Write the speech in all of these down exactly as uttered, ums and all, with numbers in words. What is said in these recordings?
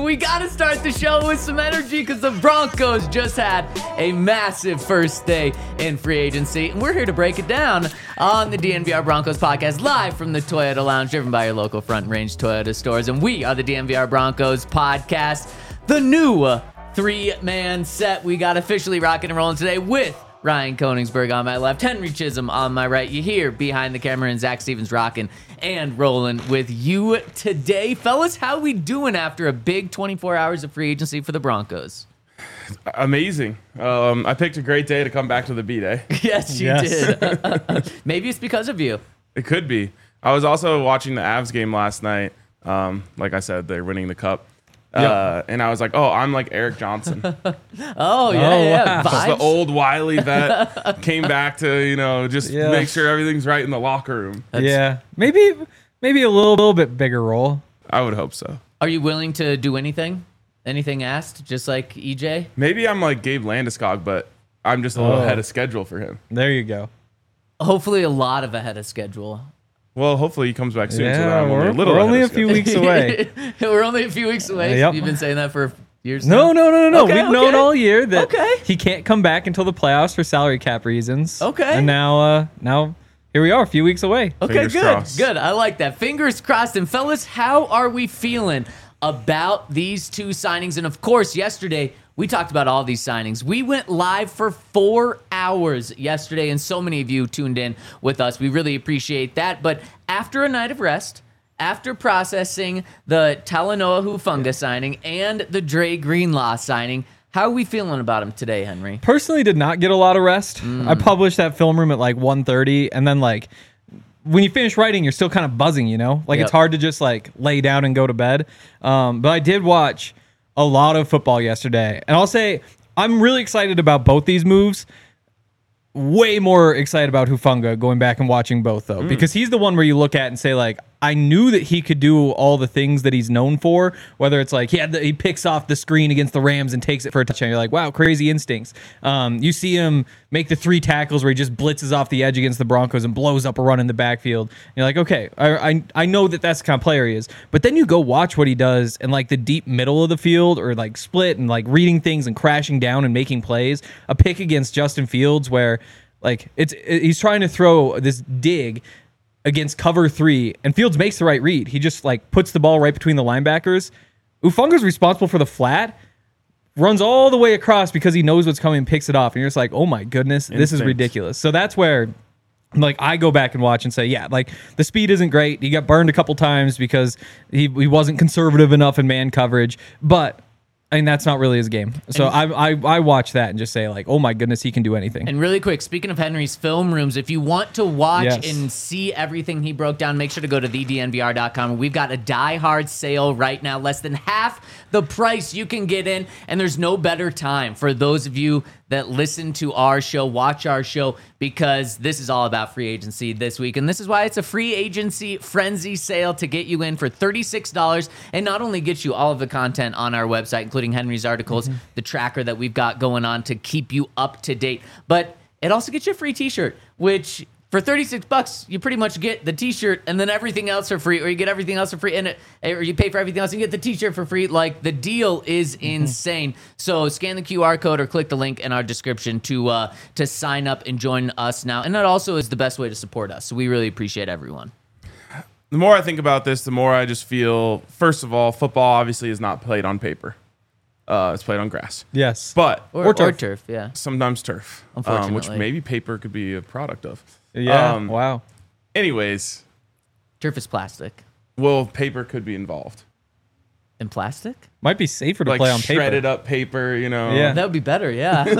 we got to start the show with some energy because the Broncos just had a massive first day in free agency. And we're here to break it down on the D N V R Broncos podcast, live from the Toyota Lounge, driven by your local Front Range Toyota stores. And we are the D N V R Broncos podcast, the new three-man set. We got officially rocking and rolling today with Ryan Koenigsberg on my left, Henry Chisholm on my right. You hear behind the camera and Zach Stevens rocking and rolling with you today. Fellas, how we doing after a big twenty-four hours of free agency for the Broncos? Amazing. Um, I picked a great day to come back to the B-Day. Yes, you Yes. did. Maybe it's because of you. It could be. I was also watching the Avs game last night. Um, like I said, they're winning the cup. Uh, and I was like, oh, I'm like Eric Johnson. Oh, yeah, Oh, yeah. wow. Just the Vibes. old wily vet came back to, you know, just Yeah. make sure everything's right in the locker room. Yeah, maybe maybe a little, little bit bigger role. I would hope so. Are you willing to do anything? Anything asked? Just like E J? Maybe I'm like Gabe Landeskog, but I'm just a little Oh. ahead of schedule for him. There you go. Hopefully a lot of ahead of schedule. Well, hopefully he comes back soon. so that Yeah, I'm only we're, a little we're ahead only of a few schedule. weeks away. We're only a few weeks away. Yep. You've been saying that for years No, now? no, no, no, no. Okay, We've known okay. all year that Okay. he can't come back until the playoffs for salary cap reasons. Okay. And now, uh, now here we are, a few weeks away. Okay, Fingers good. crossed. Good. I like that. Fingers crossed. And fellas, how are we feeling about these two signings? And of course, yesterday we talked about all these signings. We went live for four hours yesterday, and so many of you tuned in with us. We really appreciate that. But after a night of rest, after processing the Talanoa Hufanga signing and the Dre Greenlaw signing, how are we feeling about them today, Henry? Personally, did not get a lot of rest. I published that film room at like one thirty, and then like when you finish writing, you're still kind of buzzing, you know? Like Yep. it's hard to just like lay down and go to bed. Um, but I did watch a lot of football yesterday, and I'll say I'm really excited about both these moves. Way more excited about Hufanga going back and watching both though, because he's the one where you look at and say like, I knew that he could do all the things that he's known for, whether it's like he had the, he picks off the screen against the Rams and takes it for a touchdown. You're like, wow, crazy instincts. Um, you see him make the three tackles where he just blitzes off the edge against the Broncos and blows up a run in the backfield. You're like, okay, I, I I know that that's the kind of player he is. But then you go watch what he does in like the deep middle of the field or like split and like reading things and crashing down and making plays. A pick against Justin Fields where like it's it, he's trying to throw this dig against cover three, and Fields makes the right read. He just like puts the ball right between the linebackers. Ufanga's responsible for the flat, runs all the way across because he knows what's coming and picks it off. And you're just like, oh my goodness, this is Instinct. ridiculous. So that's where like I go back and watch and say, yeah, like the speed isn't great. He got burned a couple times because he, he wasn't conservative enough in man coverage, but I mean, that's not really his game. So I, I I watch that and just say like, oh my goodness, he can do anything. And really quick, speaking of Henry's film rooms, if you want to watch Yes. and see everything he broke down, make sure to go to the d n v r dot com. We've got a Die Hard sale right now, less than half the price you can get in, and there's no better time for those of you that listen to our show, watch our show, because this is all about free agency this week. And this is why it's a free agency frenzy sale to get you in for thirty-six dollars and not only get you all of the content on our website, including Henry's articles, Mm-hmm. the tracker that we've got going on to keep you up to date, but it also gets you a free t-shirt, which for thirty-six bucks, you pretty much get the t-shirt and then everything else for free, or you get everything else for free, and it, or you pay for everything else and you get the t-shirt for free. Like, the deal is insane. So scan the Q R code or click the link in our description to uh, to sign up and join us now. And that also is the best way to support us. So we really appreciate everyone. The more I think about this, the more I just feel, first of all, football obviously is not played on paper. Uh, it's played on grass. Yes. But Or, Or or turf. turf. yeah. sometimes turf, um, which Unfortunately. maybe paper could be a product of. Yeah. Um, wow. Anyways, Turf is plastic. well, paper could be involved. And plastic? Might be safer to Like play on paper. shredded up paper, you know. Yeah. That would be better,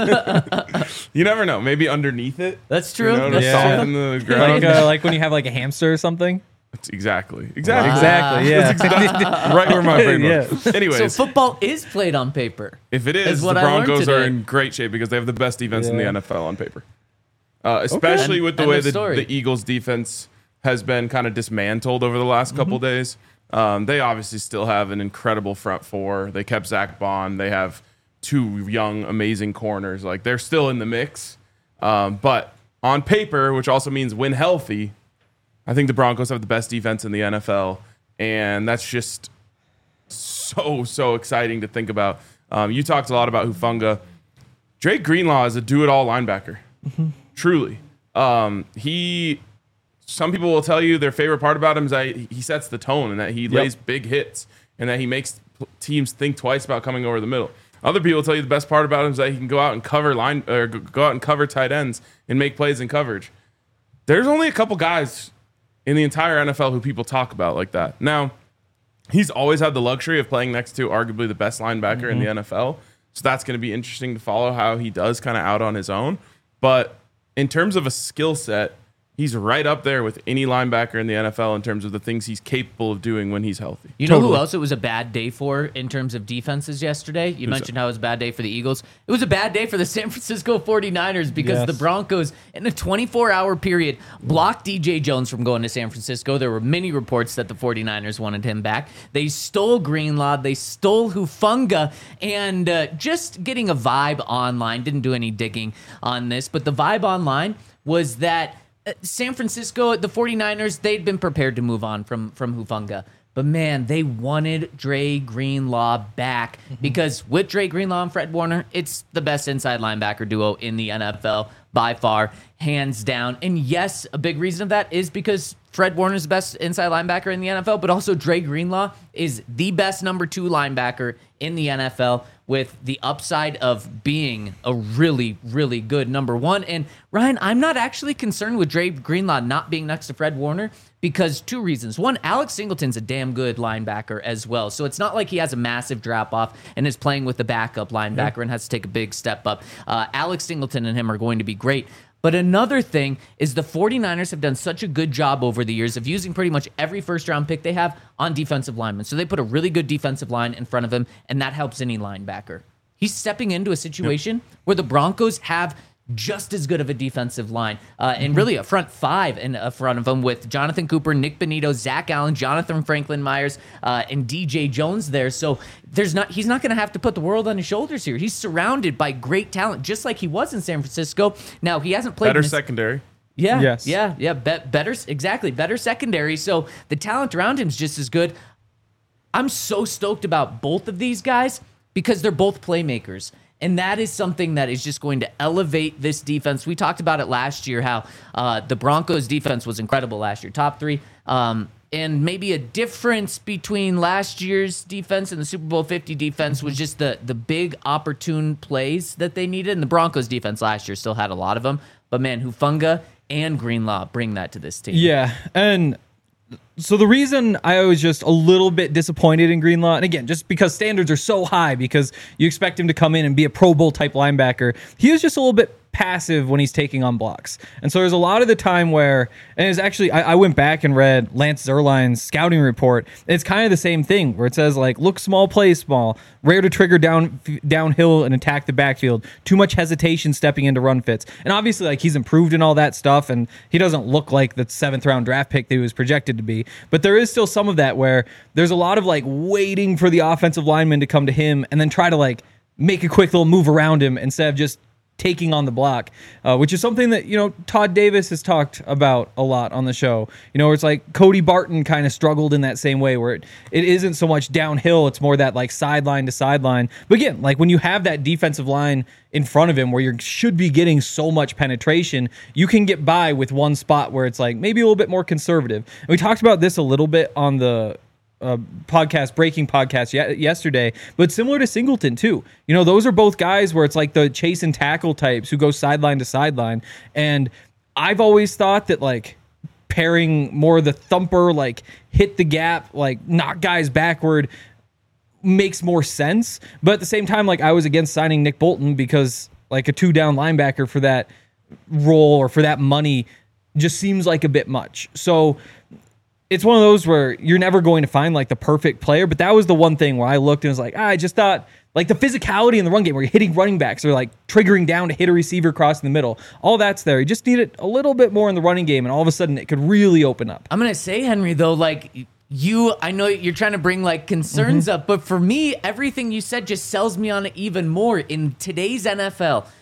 yeah. You never know. Maybe underneath it. That's true. You know, to That's Yeah. soften the ground. like, uh, like when you have like a hamster or something. That's exactly. Exactly. Exactly. Yeah. Right where my brain Yeah. was. So Anyways, football is played on paper. if it is is, the what I learned Broncos are today. in great shape because they have the best defense in the Yeah. N F L on paper. Uh, especially End- with the end way of the, story. the Eagles defense has been kind of dismantled over the last Mm-hmm. couple days. Um, they obviously still have an incredible front four. They kept Zach Bond. They have two young, amazing corners. Like, they're still in the mix. Um, but on paper, which also means when healthy, I think the Broncos have the best defense in the N F L. And that's just so, so exciting to think about. Um, you talked a lot about Hufanga. Drake Greenlaw is a do-it-all linebacker. Mm-hmm. Truly. Um, he, some people will tell you their favorite part about him is that he sets the tone and that he yep. lays big hits and that he makes teams think twice about coming over the middle. Other people tell you the best part about him is that he can go out and cover line or go out and cover tight ends and make plays in coverage. There's only a couple guys in the entire N F L who people talk about like that. Now, he's always had the luxury of playing next to arguably the best linebacker mm-hmm. in the N F L. So that's going to be interesting to follow how he does kind of out on his own. But in terms of a skill set, he's right up there with any linebacker in the N F L in terms of the things he's capable of doing when he's healthy. You know Totally. who else it was a bad day for in terms of defenses yesterday? You Who's mentioned that? how it was a bad day for the Eagles. It was a bad day for the San Francisco forty-niners because Yes. the Broncos, in a twenty-four hour period, blocked D J Jones from going to San Francisco. There were many reports that the forty-niners wanted him back. They stole Greenlaw. They stole Hufanga. And uh, just getting a vibe online, didn't do any digging on this, but the vibe online was that San Francisco, the forty-niners, they'd been prepared to move on from, from Hufanga. But, man, they wanted Dre Greenlaw back mm-hmm. because with Dre Greenlaw and Fred Warner, it's the best inside linebacker duo in the N F L by far, hands down. And, yes, a big reason of that is because Fred Warner's the best inside linebacker in the N F L, but also Dre Greenlaw is the best number two linebacker in the N F L with the upside of being a really, really good number one. And Ryan, I'm not actually concerned with Dre Greenlaw not being next to Fred Warner because two reasons. One, Alex Singleton's a damn good linebacker as well. So it's not like he has a massive drop off and is playing with the backup linebacker yeah. and has to take a big step up. Uh, Alex Singleton and him are going to be great. But another thing is the forty-niners have done such a good job over the years of using pretty much every first-round pick they have on defensive linemen. So they put a really good defensive line in front of him, and that helps any linebacker. He's stepping into a situation yep. where the Broncos have just as good of a defensive line, uh, and really a front five in uh, front of him with Jonathan Cooper, Nick Benito, Zach Allen, Jonathan Franklin Myers, uh, and D J Jones there. So there's not he's not going to have to put the world on his shoulders here. He's surrounded by great talent, just like he was in San Francisco. Now he hasn't played better his, secondary. Yeah, yes. yeah, yeah. Be- better, exactly. Better secondary. So the talent around him is just as good. I'm so stoked about both of these guys because they're both playmakers. And that is something that is just going to elevate this defense. We talked about it last year, how uh, the Broncos defense was incredible last year, top three. Um, and maybe a difference between last year's defense and the Super Bowl fifty defense was just the the big opportune plays that they needed. And the Broncos defense last year still had a lot of them. But man, Hufanga and Greenlaw bring that to this team. Yeah, and so the reason I was just a little bit disappointed in Greenlaw, and again, just because standards are so high, because you expect him to come in and be a Pro Bowl type linebacker, he was just a little bit passive when he's taking on blocks. And so there's a lot of the time where, and it's actually, I, I went back and read Lance Zierlein's scouting report. It's kind of the same thing where it says like, look small, play small, rare to trigger down downhill and attack the backfield, too much hesitation stepping into run fits. And obviously like he's improved in all that stuff and he doesn't look like the seventh round draft pick that he was projected to be. But there is still some of that where there's a lot of like waiting for the offensive lineman to come to him and then try to like make a quick little move around him instead of just taking on the block, uh, which is something that, you know, Todd Davis has talked about a lot on the show. You know, where it's like Cody Barton kind of struggled in that same way where it, it isn't so much downhill, it's more that like sideline to sideline. But again, like when you have that defensive line in front of him where you should be getting so much penetration, you can get by with one spot where it's like maybe a little bit more conservative. And we talked about this a little bit on the Uh, podcast, breaking podcast ye- yesterday, but similar to Singleton too. You know, those are both guys where it's like the chase and tackle types who go sideline to sideline. And I've always thought that like pairing more of the thumper, like hit the gap, like knock guys backward makes more sense. But at the same time, like I was against signing Nick Bolton because like a two down linebacker for that role or for that money just seems like a bit much. So it's one of those where you're never going to find like the perfect player, but that was the one thing where I looked and was like, ah, I just thought like the physicality in the run game where you're hitting running backs or like triggering down to hit a receiver across the middle, all that's there. You just need it a little bit more in the running game and all of a sudden it could really open up. I'm going to say, Henry, though, like you, I know you're trying to bring like concerns mm-hmm. up, but for me, everything you said just sells me on it even more in today's N F L.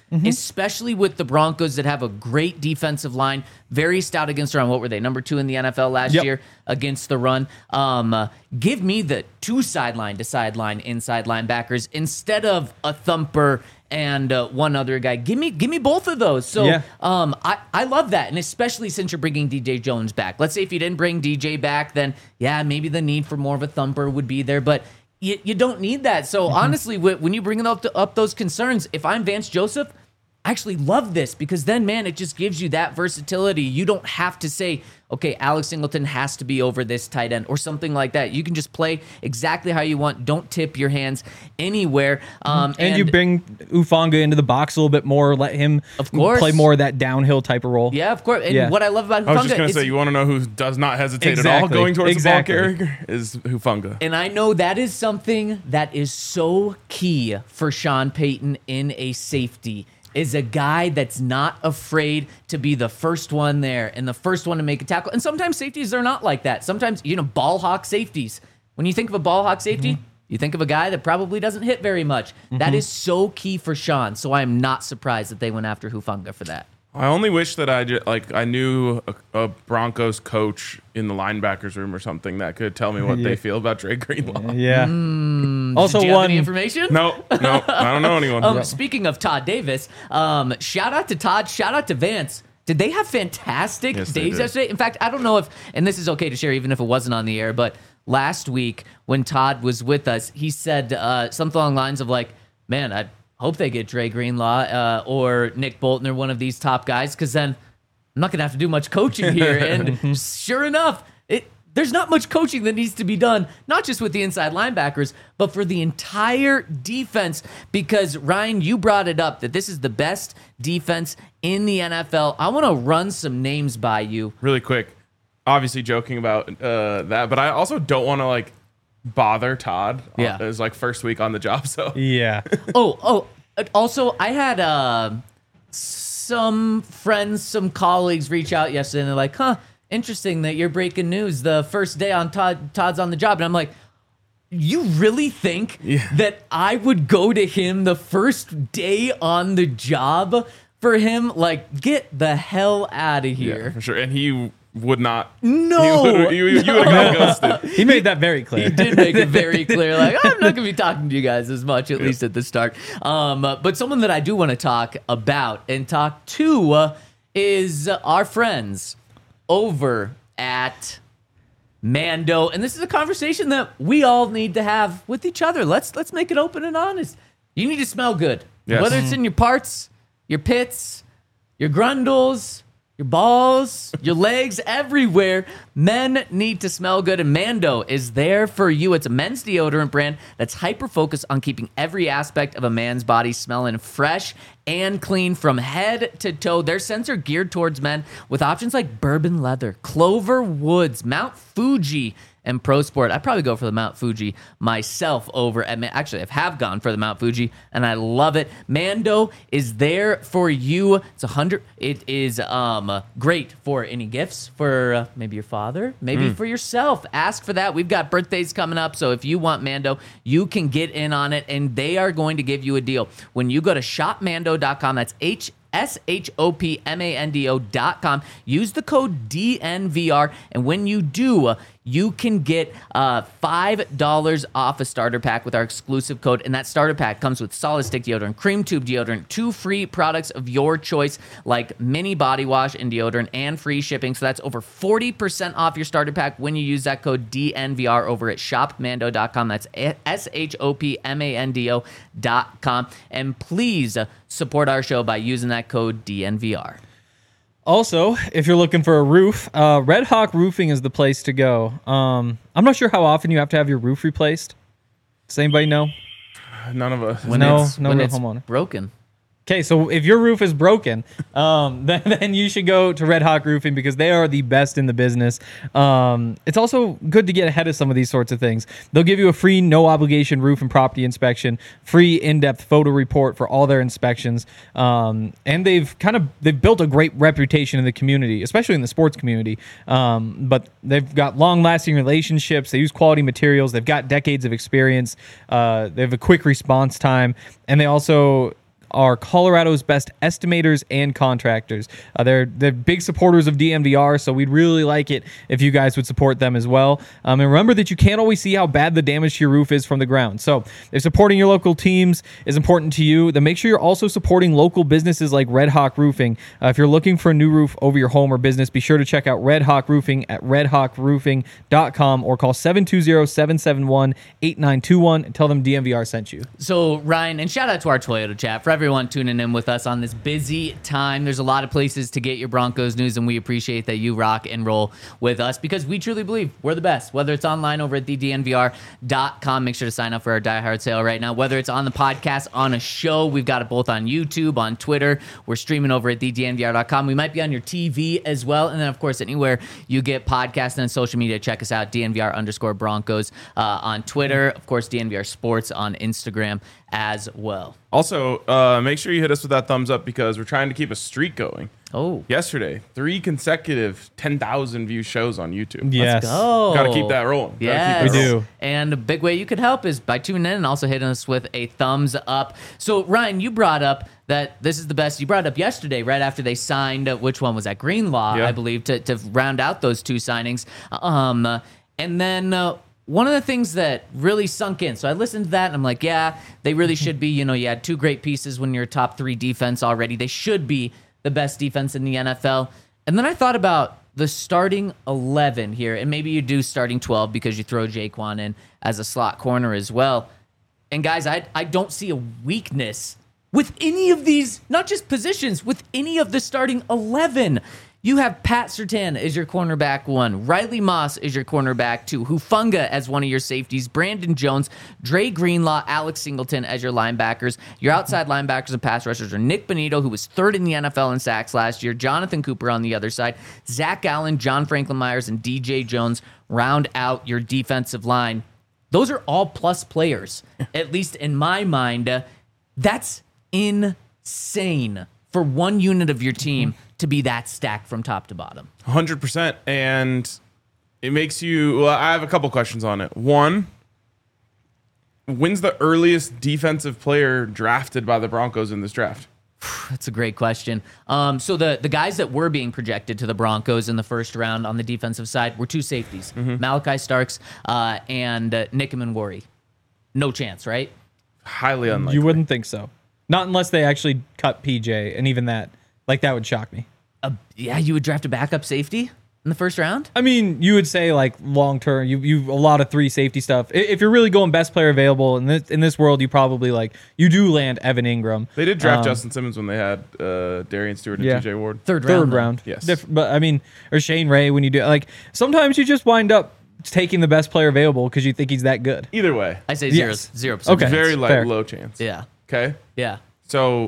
mm-hmm. especially with the Broncos that have a great defensive line, very stout against the run. What were they? Number two in the N F L last yep. year against the run. Um, uh, give me the two sideline to sideline inside linebackers instead of a thumper and uh, one other guy. Give me give me both of those. So yeah. um, I, I love that. And especially since you're bringing D J Jones back. Let's say if you didn't bring D J back, then yeah, maybe the need for more of a thumper would be there. But you, you don't need that. So mm-hmm. honestly, when you bring up, to, up those concerns, if I'm Vance Joseph, I actually love this because then, man, it just gives you that versatility. You don't have to say, okay, Alex Singleton has to be over this tight end or something like that. You can just play exactly how you want. Don't tip your hands anywhere. Um, and, and you bring Ufanga into the box a little bit more. Let him of course. play more of that downhill type of role. Yeah, of course. And yeah. what I love about Hufanga I was just going to say, you want to know who does not hesitate exactly. at all going towards exactly. the ball carrier is Hufanga. And I know that is something that is so key for Sean Payton in a safety. Is a guy that's not afraid to be the first one there and the first one to make a tackle. And sometimes safeties are not like that. Sometimes, you know, ball hawk safeties. When you think of a ball hawk safety, mm-hmm. you think of a guy that probably doesn't hit very much. Mm-hmm. That is so key for Sean. So I am not surprised that they went after Hufanga for that. I only wish that I just, like I knew a, a Broncos coach in the linebackers room or something that could tell me what yeah. they feel about Dre Greenlaw. Yeah. Mm, also, did you have one any information? No, no, I don't know anyone. Um, yeah. Speaking of Todd Davis, um, shout out to Todd. Shout out to Vance. Did they have fantastic yes, days yesterday? In fact, I don't know if, and this is okay to share even if it wasn't on the air, but last week when Todd was with us, he said uh, something along the lines of like, man, I hope they get Dre Greenlaw uh, or Nick Bolton or one of these top guys, because then I'm not going to have to do much coaching here. And sure enough, it there's not much coaching that needs to be done, not just with the inside linebackers, but for the entire defense. Because, Ryan, you brought it up that this is the best defense in the N F L. I want to run some names by you. Really quick. Obviously joking about uh, that, but I also don't want to, like, bother Todd yeah. his like first week on the job. So yeah. oh, oh. Also, I had uh, some friends, some colleagues reach out yesterday, and they're like, "Huh, interesting that you're breaking news the first day on Todd. Todd's on the job." And I'm like, "You really think yeah. that I would go to him the first day on the job for him? Like, get the hell out of here!" Yeah, for sure. And he would not. No, he, you, you would have got ghosted. He made that very clear. He did make it very clear. Like, I'm not going to be talking to you guys as much, at yeah. least at the start. Um, uh, but someone that I do want to talk about and talk to uh, is uh, our friends over at Mando, and this is a conversation that we all need to have with each other. Let's let's make it open and honest. You need to smell good, yes. whether it's in your parts, your pits, your grundles, your balls, your legs, everywhere. Men need to smell good, and Mando is there for you. It's a men's deodorant brand that's hyper-focused on keeping every aspect of a man's body smelling fresh and clean from head to toe. Their scents are geared towards men with options like bourbon leather, clover woods, Mount Fuji, and Pro Sport. I'd probably go for the Mount Fuji myself over at, actually, I have gone for the Mount Fuji, and I love it. Mando is there for you. It's a hundred. It is um great for any gifts for uh, maybe your father, maybe mm. for yourself. Ask for that. We've got birthdays coming up, so if you want Mando, you can get in on it, and they are going to give you a deal. When you go to shop mando dot com, that's H S H O P M A N D O dot com. Use the code D N V R, and when you do, you can get uh, five dollars off a starter pack with our exclusive code, and that starter pack comes with solid stick deodorant, cream tube deodorant, two free products of your choice like mini body wash and deodorant, and free shipping. So that's over forty percent off your starter pack when you use that code D N V R over at shop mando dot com. That's S H O P M A N D O dot com. And please support our show by using that code D N V R. Also, if you're looking for a roof, uh, Red Hawk Roofing is the place to go. Um, I'm not sure how often you have to have your roof replaced. Does anybody know? None of us. When no, it's, no when real it's homeowner. broken. Okay, so if your roof is broken, um, then, then you should go to Red Hawk Roofing because they are the best in the business. Um, it's also good to get ahead of some of these sorts of things. They'll give you a free no-obligation roof and property inspection, free in-depth photo report for all their inspections, um, and they've kind of they've built a great reputation in the community, especially in the sports community. Um, but they've got long-lasting relationships. They use quality materials. They've got decades of experience. Uh, they have a quick response time, and they also are Colorado's best estimators and contractors. Uh, they're they're big supporters of D N V R, so we'd really like it if you guys would support them as well. Um, and remember that you can't always see how bad the damage to your roof is from the ground. So if supporting your local teams is important to you, then make sure you're also supporting local businesses like Red Hawk Roofing. Uh, if you're looking for a new roof over your home or business, be sure to check out Red Hawk Roofing at red hawk roofing dot com or call seven two zero, seven seven one, eight nine two one and tell them D N V R sent you. So, Ryan, and shout out to our Toyota chat for everyone tuning in with us on this busy time. There's a lot of places to get your Broncos news, and we appreciate that you rock and roll with us because we truly believe we're the best. Whether it's online over at the D N V R dot com, make sure to sign up for our Die Hard sale right now. Whether it's on the podcast, on a show, we've got it both on YouTube, on Twitter. We're streaming over at the D N V R dot com. We might be on your T V as well. And then, of course, anywhere you get podcasts and on social media, check us out, D N V R underscore Broncos uh, on Twitter. Of course, D N V R Sports on Instagram as well. Also, uh, make sure you hit us with that thumbs up because we're trying to keep a streak going. Oh. Yesterday, three consecutive ten thousand view shows on YouTube. Yes. Let's go. Got to keep that rolling. Gotta Yes. keep that We rolling. do. And a big way you could help is by tuning in and also hitting us with a thumbs up. So, Ryan, you brought up that this is the best. You brought it up yesterday, right after they signed, uh, which one was that? Greenlaw, Yeah. I believe, to, to round out those two signings. Um, uh, and then uh, one of the things that really sunk in, so I listened to that and I'm like, yeah, they really should be. You know, you had two great pieces when you're a top three defense already. They should be the best defense in the N F L. And then I thought about the starting eleven here, and maybe you do starting twelve because you throw Jaquan in as a slot corner as well. And guys, I I don't see a weakness with any of these, not just positions, with any of the starting eleven. You have Pat Surtain as your cornerback one, Riley Moss is your cornerback two, Hufanga as one of your safeties, Brandon Jones, Dre Greenlaw, Alex Singleton as your linebackers. Your outside linebackers and pass rushers are Nick Bonito, who was third in the N F L in sacks last year, Jonathan Cooper on the other side, Zach Allen, John Franklin Myers, and D J Jones round out your defensive line. Those are all plus players, at least in my mind. That's insane for one unit of your team to be that stacked from top to bottom. one hundred percent. And it makes you, well, I have a couple questions on it. One, when's the earliest defensive player drafted by the Broncos in this draft? That's a great question. Um, so the, the guys that were being projected to the Broncos in the first round on the defensive side were two safeties, Mm-hmm. Malachi Starks uh, and uh, Nick Worry. No chance, right? Highly unlikely. You wouldn't think so. Not unless they actually cut P J, and even that, like that would shock me. Uh, yeah, you would draft a backup safety in the first round? I mean, you would say like long term, you you a lot of three safety stuff. I- If you're really going best player available in this in this world, you probably like you do land Evan Ingram. They did draft Um, Justin Simmons when they had uh, Darian Stewart and yeah. T J Ward. Third round. Third though. round, Yes. Diff- but I mean, or Shane Ray when you do like sometimes you just wind up taking the best player available because you think he's that good. Either way, I say zero, Yes. zero percent. Okay. very light, Fair. low chance. Yeah, Okay. yeah. So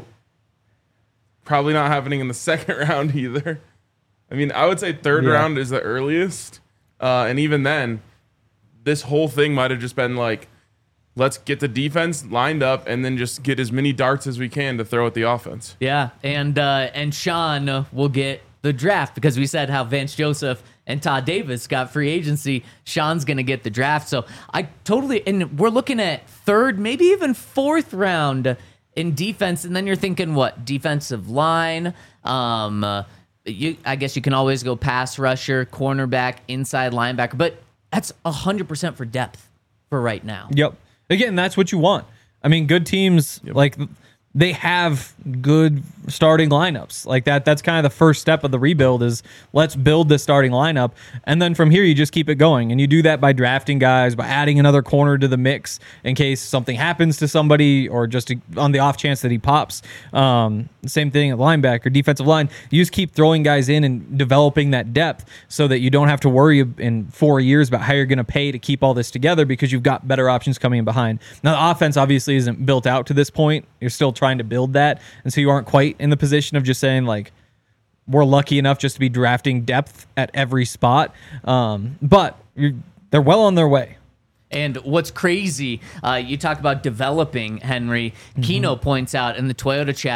probably not happening in the second round either. I mean, I would say third Yeah. round is the earliest. Uh, and even then, this whole thing might have just been like, let's get the defense lined up and then just get as many darts as we can to throw at the offense. Yeah, and uh, and Sean uh, will get the draft because we said how Vance Joseph and Todd Davis got free agency. Sean's going to get the draft. So I totally, and we're looking at third, maybe even fourth round in defense. And then you're thinking, what, defensive line? Um, uh, you, I guess you can always go pass rusher, cornerback, inside linebacker, but that's one hundred percent for depth for right now. Yep. Again, that's what you want. I mean, good teams like they have good starting lineups like that. That's kind of the first step of the rebuild is let's build the starting lineup. And then from here, you just keep it going. And you do that by drafting guys, by adding another corner to the mix in case something happens to somebody or just to, on the off chance that he pops. Um, same thing at linebacker, defensive line. You just keep throwing guys in and developing that depth so that you don't have to worry in four years about how you're going to pay to keep all this together because you've got better options coming in behind. Now, the offense obviously isn't built out to this point. You're still trying to build that. And so you aren't quite in the position of just saying like, we're lucky enough just to be drafting depth at every spot. Um, but you're, they're well on their way. And what's crazy, uh, you talk about developing, Henry. Mm-hmm. Keno points out in the Toyota chat,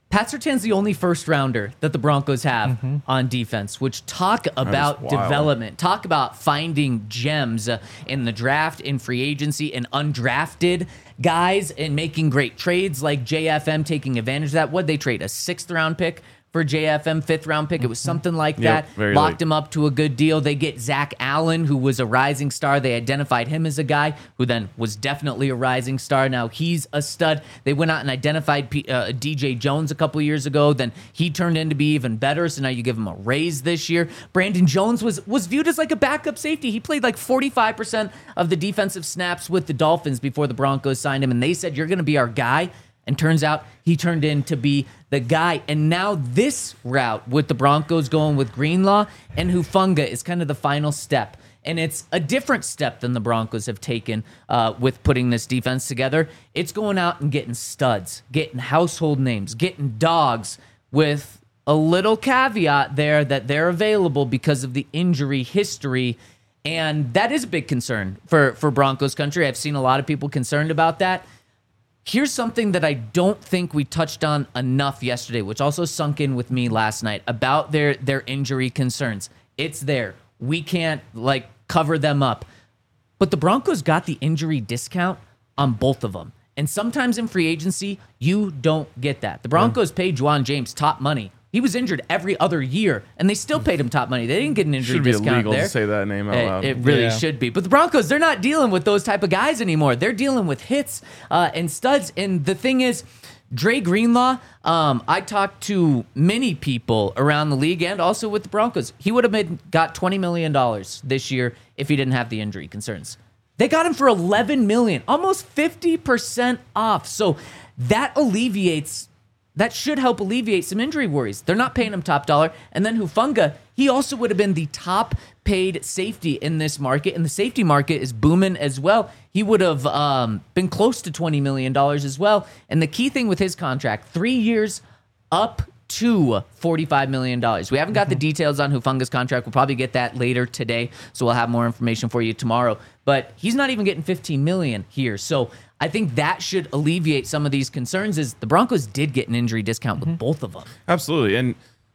Pat Surtain's the only first rounder that the Broncos have Mm-hmm. on defense, which talk about wild. development, talk about finding gems uh, in the draft, in free agency, and undrafted guys, and making great trades like J F M taking advantage of that. What'd they trade? A sixth round pick for J F M, fifth round pick. It was something like Yep, that. very Locked late. him up to a good deal. They get Zach Allen, who was a rising star. They identified him as a guy who then was definitely a rising star. Now he's a stud. They went out and identified P- uh, D J Jones a couple years ago. Then he turned in to be even better. So now you give him a raise this year. Brandon Jones was was viewed as like a backup safety. He played like forty-five percent of the defensive snaps with the Dolphins before the Broncos signed him. And they said, you're going to be our guy. And turns out he turned in to be the guy. And now this route with the Broncos going with Greenlaw and Hufanga is kind of the final step. And it's a different step than the Broncos have taken uh, with putting this defense together. It's going out and getting studs, getting household names, getting dogs, with a little caveat there that they're available because of the injury history. And that is a big concern for, for Broncos country. I've seen a lot of people concerned about that. Here's something that I don't think we touched on enough yesterday, which also sunk in with me last night about their, their injury concerns. It's there. We can't like cover them up. But the Broncos got the injury discount on both of them. And sometimes in free agency, you don't get that. The Broncos paid Juwan James top money. He was injured every other year, and they still paid him top money. They didn't get an injury Should be discount illegal there. to say that name out It, loud. it really Yeah. should be. But the Broncos, they're not dealing with those type of guys anymore. They're dealing with hits uh, and studs. And the thing is, Dre Greenlaw, um, I talked to many people around the league and also with the Broncos. He would have been, got twenty million dollars this year if he didn't have the injury concerns. They got him for eleven million dollars, almost fifty percent off. So that alleviates... That should help alleviate some injury worries. They're not paying him top dollar. And then Hufanga, he also would have been the top paid safety in this market. And the safety market is booming as well. He would have um, been close to twenty million dollars as well. And the key thing with his contract, three years up to forty-five million dollars. We haven't got the details on Hufanga's contract. We'll probably get that later today. So we'll have more information for you tomorrow. But he's not even getting fifteen million dollars here. So I think that should alleviate some of these concerns. Is the Broncos did get an injury discount with both of them. Absolutely. And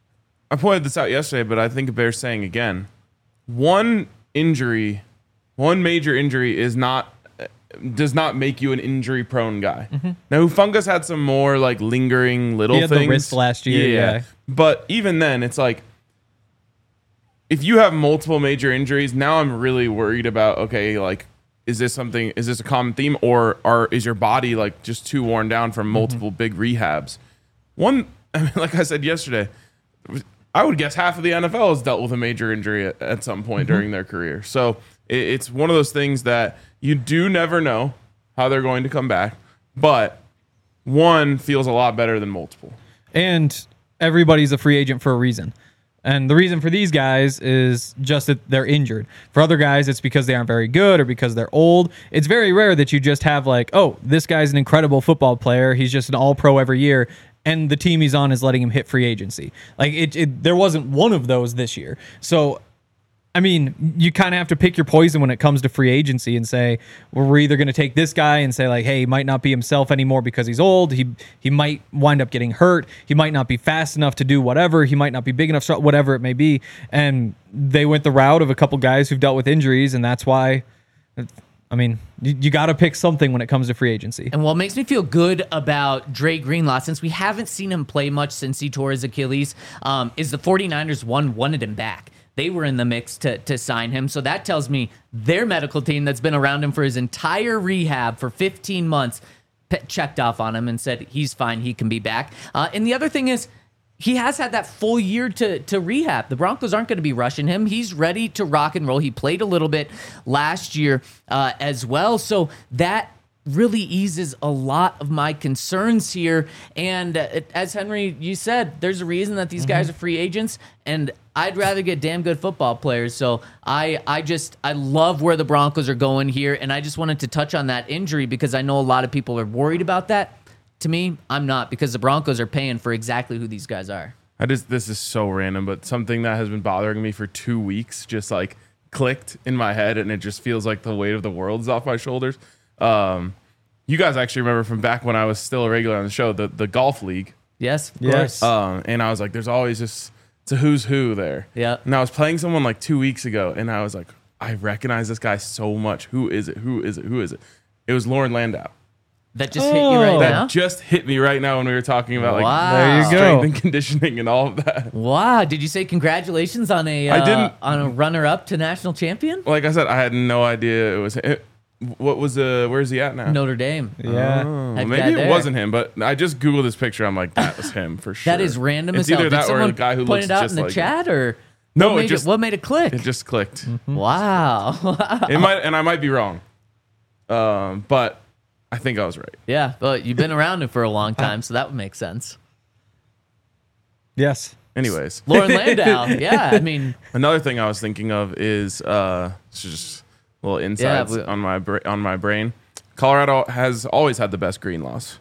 I pointed this out yesterday, but I think it bears saying again. One injury, one major injury is not does not make you an injury prone guy. Mm-hmm. Now Hufanga's had some more like lingering little He had things. the wrist last year, yeah. But even then it's like if you have multiple major injuries, now I'm really worried about okay, like is this something is this a common theme or are is your body like just too worn down from multiple mm-hmm. big rehabs? One I mean, like I said yesterday, I would guess half of the N F L has dealt with a major injury at, at some point mm-hmm. during their career. So it, it's one of those things that you do never know how they're going to come back, but one feels a lot better than multiple. And everybody's a free agent for a reason. And the reason for these guys is just that they're injured. For other guys, it's because they aren't very good or because they're old. It's very rare that you just have like, oh, this guy's an incredible football player. He's just an all-pro every year. And the team he's on is letting him hit free agency. Like it, it there wasn't one of those this year. So, I mean, you kind of have to pick your poison when it comes to free agency and say, well, we're either going to take this guy and say like, hey, he might not be himself anymore because he's old. He he might wind up getting hurt. He might not be fast enough to do whatever. He might not be big enough, whatever it may be. And they went the route of a couple guys who've dealt with injuries, and that's why. I mean, you, you got to pick something when it comes to free agency. And what makes me feel good about Dre Greenlaw, since we haven't seen him play much since he tore his Achilles, um, is the 49ers, one, wanted him back. They were in the mix to, to sign him. So that tells me their medical team that's been around him for his entire rehab for fifteen months pe- checked off on him and said he's fine, he can be back. Uh, and the other thing is, he has had that full year to, to rehab. The Broncos aren't going to be rushing him. He's ready to rock and roll. He played a little bit last year uh, as well. So that really eases a lot of my concerns here. And uh, as Henry, you said, there's a reason that these mm-hmm. guys are free agents. And I'd rather get damn good football players. So I, I just, I love where the Broncos are going here. And I just wanted to touch on that injury because I know a lot of people are worried about that. To me, I'm not, because the Broncos are paying for exactly who these guys are. I just this is so random, but something that has been bothering me for two weeks just like clicked in my head, and it just feels like the weight of the world's off my shoulders. Um, you guys actually remember from back when I was still a regular on the show, the, the golf league Yes, of Yes. course. Um, and I was like, there's always just, it's a who's who there. Yeah. And I was playing someone like two weeks ago, and I was like, I recognize this guy so much. Who is it? Who is it? Who is it? It was Lauren Landau. That just hit you right Oh. That now? just hit me right now when we were talking about like Wow. There you go. strength and conditioning and all of that. Wow. Did you say congratulations on a I uh, didn't- on a runner-up to national champion? Like I said, I had no idea it was him. What was uh where's he at now? Notre Dame. Yeah. Oh, Heck maybe yeah, it there. wasn't him, but I just googled this picture. I'm like, that was him for sure. That is random It's as hell. either Did that or someone the guy who point looks it out just in the like chat, or No, what it made just- what made it click? It just clicked. Wow. It might, and I might be wrong, um, but I think I was right. Yeah, but you've been around it for a long time, so that would make sense. Yes. Anyways, Lauren Landau. Yeah, I mean, another thing I was thinking of is uh, it's just little insights we- on my bra- on my brain. Colorado has always had the best green laws.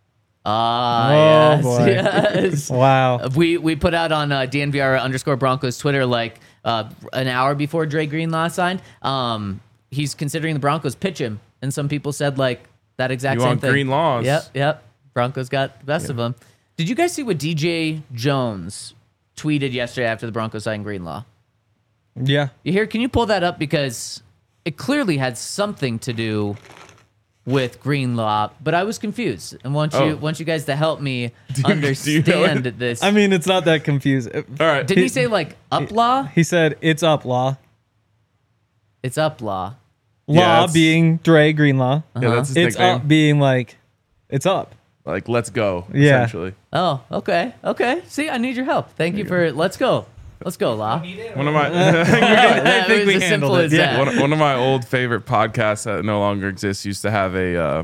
ah, Oh, yes, boy. yes. Wow. We we put out on uh, D N V R underscore Broncos Twitter like uh, an hour before Dre Greenlaw signed. Um, he's considering the Broncos pitch him, and some people said like that exact You same want thing. green laws? Yep, yep. Broncos got the best of them. Did you guys see what D J Jones tweeted yesterday after the Broncos signed Greenlaw? Yeah. You hear? Can you pull that up, because it clearly had something to do with Greenlaw, but I was confused, and want you Oh. want you guys to help me you- do you know understand it? this. I mean, it's not that confusing. All right, Didn't he say like up law? He said it's up law. It's up law. Yeah, Law it's- being Dre Greenlaw. yeah, that's his It's nickname. up being like, it's up. Like, let's go. Yeah. Essentially, Oh, okay, okay. See, I need your help. Thank you for. Let's go. Let's go, Law. one of my That think was we as simple handled it. as Yeah. that. one, one of my old favorite podcasts that no longer exists used to have a uh,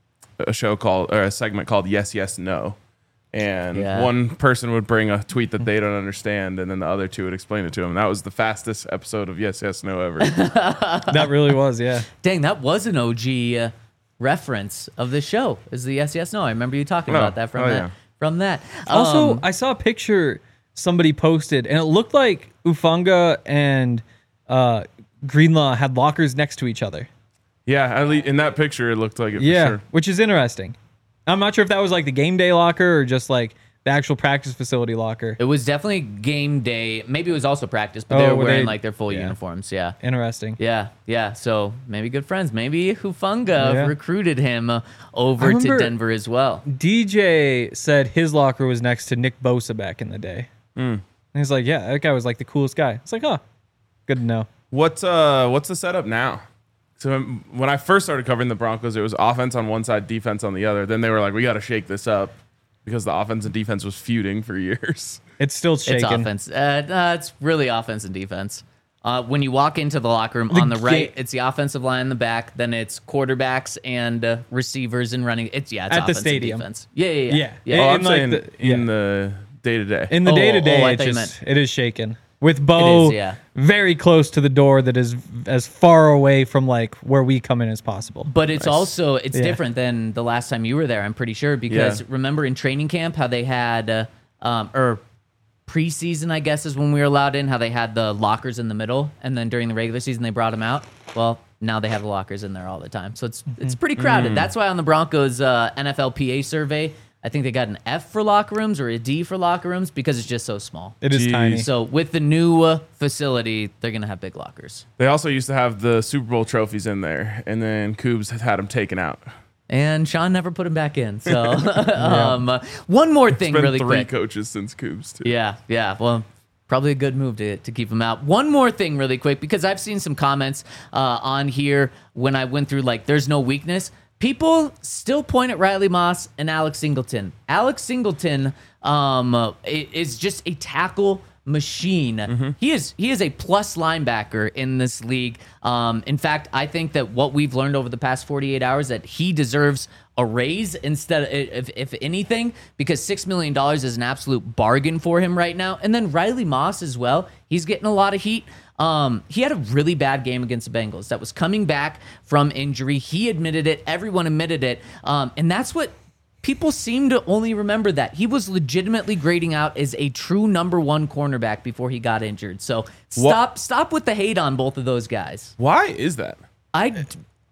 a show called or a segment called Yes Yes No, and Yeah. one person would bring a tweet that they don't understand, and then the other two would explain it to them. That was the fastest episode of Yes Yes No ever. That really was, yeah. Dang, that was an O G uh, reference of the show. Is the yes yes no? I remember you talking Oh, about that from oh, that yeah. from that. Also, Um, I saw a picture somebody posted, and it looked like Ufanga and uh, Greenlaw had lockers next to each other. Yeah, at least in that picture, it looked like it. Yeah, for sure. which is interesting. I'm not sure if that was like the game day locker or just like the actual practice facility locker. it was definitely game day. Maybe it was also practice, but Oh, they were were wearing they- like their full yeah. uniforms. Yeah. Interesting. Yeah, yeah. So maybe good friends. Maybe Hufunga Yeah. recruited him uh, over I to remember- Denver as well. D J said his locker was next to Nick Bosa back in the day. Hmm. And he's like, yeah, that guy was like the coolest guy. It's like, huh, good to know. What's uh what's the setup now? So um, when I first started covering the Broncos, it was offense on one side, defense on the other. Then they were like, we got to shake this up because the offense and defense was feuding for years. It's still It's shaking. offense. Uh, uh, it's really offense and defense. Uh, when you walk into the locker room on the right, ga- it's the offensive line in the back. Then it's quarterbacks and uh, receivers and running. It's yeah, it's At the offense stadium. and defense. Yeah, yeah, yeah. Yeah. yeah. Oh, In I'm like saying the- in yeah. the day to day. In the Oh, day to oh, day, I it thought you just meant- it is shaken. With Bo It is, yeah. very close to the door that is as far away from like where we come in as possible. But it's also it's Yeah. different than the last time you were there. I'm pretty sure because Yeah. remember in training camp how they had uh, um, or preseason I guess is when we were allowed in, how they had the lockers in the middle, and then during the regular season they brought them out. Well, now they have the lockers in there all the time, so it's it's pretty crowded. That's why on the Broncos uh, N F L P A survey, I think they got an F for locker rooms or a D for locker rooms because it's just so small. It is Jeez. tiny. So with the new uh, facility, they're gonna have big lockers. They also used to have the Super Bowl trophies in there, and then Coobs had them taken out. And Sean never put him back in. So um, uh, one more thing, Been really three quick. coaches since Coobs too. Yeah, yeah. Well, probably a good move to, to keep him out. One more thing, really quick, because I've seen some comments uh, on here when I went through, like, there's no weakness. People still point at Riley Moss and Alex Singleton. Alex Singleton um, uh, i- is just a tackle machine. He is he is a plus linebacker in this league. Um, in fact, I think that what we've learned over the past forty-eight hours that he deserves a raise instead of, if, if anything, because six million dollars is an absolute bargain for him right now. And then Riley Moss as well. He's getting a lot of heat. Um, he had a really bad game against the Bengals that was coming back from injury. He admitted it. Everyone admitted it. Um, and that's what people seem to only remember, that he was legitimately grading out as a true number one cornerback before he got injured. So stop, stop with the hate on both of those guys. Why is that? I,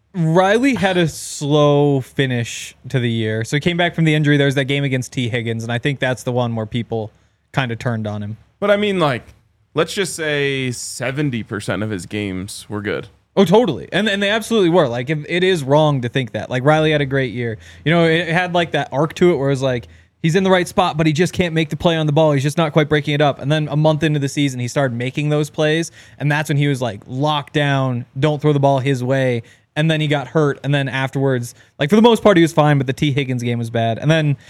Riley had a slow finish to the year. So he came back from the injury. There's that game against T. Higgins, and I think that's the one where people kind of turned on him. But I mean, like, let's just say seventy percent of his games were good. Oh, totally. And and they absolutely were. Like, it, it is wrong to think that. Like, Riley had a great year. You know, it had like that arc to it where it was like, he's in the right spot, but he just can't make the play on the ball. He's just not quite breaking it up. And then a month into the season, he started making those plays. And that's when he was like, locked down, don't throw the ball his way. And then he got hurt. And then afterwards, like for the most part, he was fine, but the T. Higgins game was bad. And then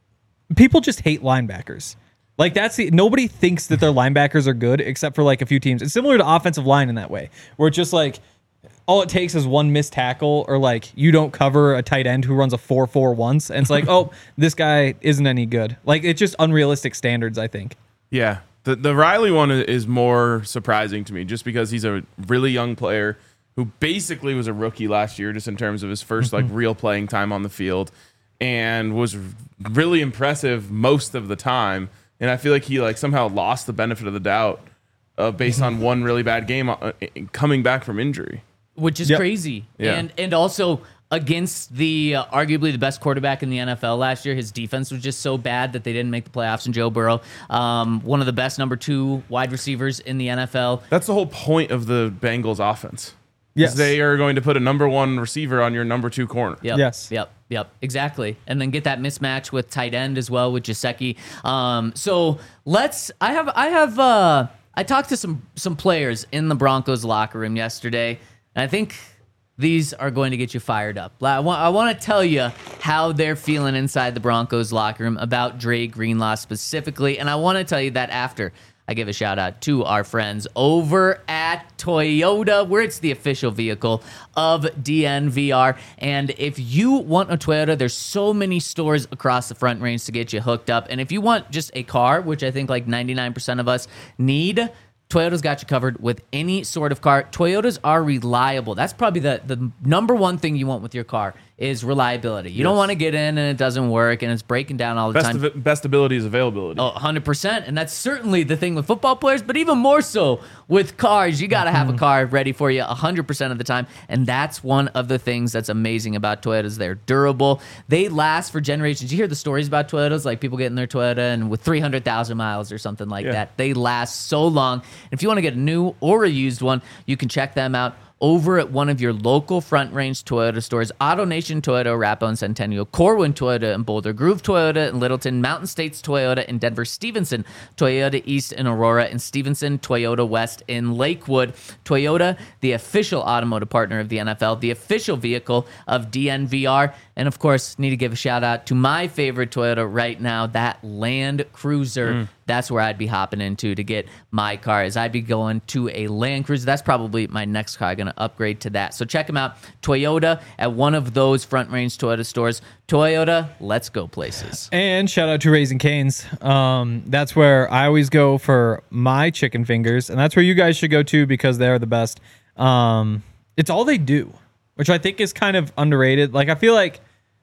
people just hate linebackers. Like that's the, nobody thinks that their linebackers are good except for like a few teams. It's similar to offensive line in that way, where it's just like, all it takes is one missed tackle or like you don't cover a tight end who runs a four four once. And it's like, oh, this guy isn't any good. Like it's just unrealistic standards, I think. Yeah. The the Riley one is more surprising to me just because he's a really young player who basically was a rookie last year just in terms of his first like real playing time on the field and was really impressive most of the time. And I feel like he like somehow lost the benefit of the doubt uh, based on one really bad game uh, coming back from injury. Which is Yep. crazy. Yeah. And and also against the uh, arguably the best quarterback in the N F L last year, his defense was just so bad that they didn't make the playoffs in Joe Burrow. Um, one of the best number two wide receivers in the N F L. That's the whole point of the Bengals offense. Yes. Is they are going to put a number one receiver on your number two corner. Yep. Yes. Yep. Yep. Exactly. And then get that mismatch with tight end as well with Gesicki. Um, so let's. I have. I have. Uh, I talked to some some players in the Broncos locker room yesterday, and I think these are going to get you fired up. I want. I want to tell you how they're feeling inside the Broncos locker room about Dre Greenlaw specifically, and I want to tell you that after I give a shout out to our friends over at Toyota, where it's the official vehicle of D N V R. And if you want a Toyota, there's so many stores across the Front Range to get you hooked up. And if you want just a car, which I think like ninety-nine percent of us need, Toyota's got you covered with any sort of car. Toyotas are reliable. That's probably the, the number one thing you want with your car is reliability. You Yes. don't want to get in and it doesn't work and it's breaking down all the Best, time. of, best ability is availability. Oh, one hundred percent. And that's certainly the thing with football players, but even more so with cars. You got to have a car ready for you one hundred percent of the time. And that's one of the things that's amazing about Toyotas. They're durable. They last for generations. You hear the stories about Toyotas, like people getting their Toyota and with three hundred thousand miles or something like Yeah. that. They last so long. And if you want to get a new or a used one, you can check them out over at one of your local Front Range Toyota stores. AutoNation Toyota, Arapahoe and Centennial, Corwin Toyota in Boulder, Groove Toyota in Littleton, Mountain States Toyota in Denver, Stevenson Toyota East in Aurora, and Stevenson Toyota West in Lakewood. Toyota, the official automotive partner of the N F L, the official vehicle of D N V R. And of course, need to give a shout out to my favorite Toyota right now, that Land Cruiser. Mm. That's where I'd be hopping into to get my car, as I'd be going to a Land Cruiser. That's probably my next car. I'm going to upgrade to that. So check them out, Toyota, at one of those Front Range Toyota stores. Toyota, let's go places. And shout out to Raising Cane's. Um, that's where I always go for my chicken fingers, and that's where you guys should go too because they're the best. Um, it's all they do, which I think is kind of underrated. Like I feel like,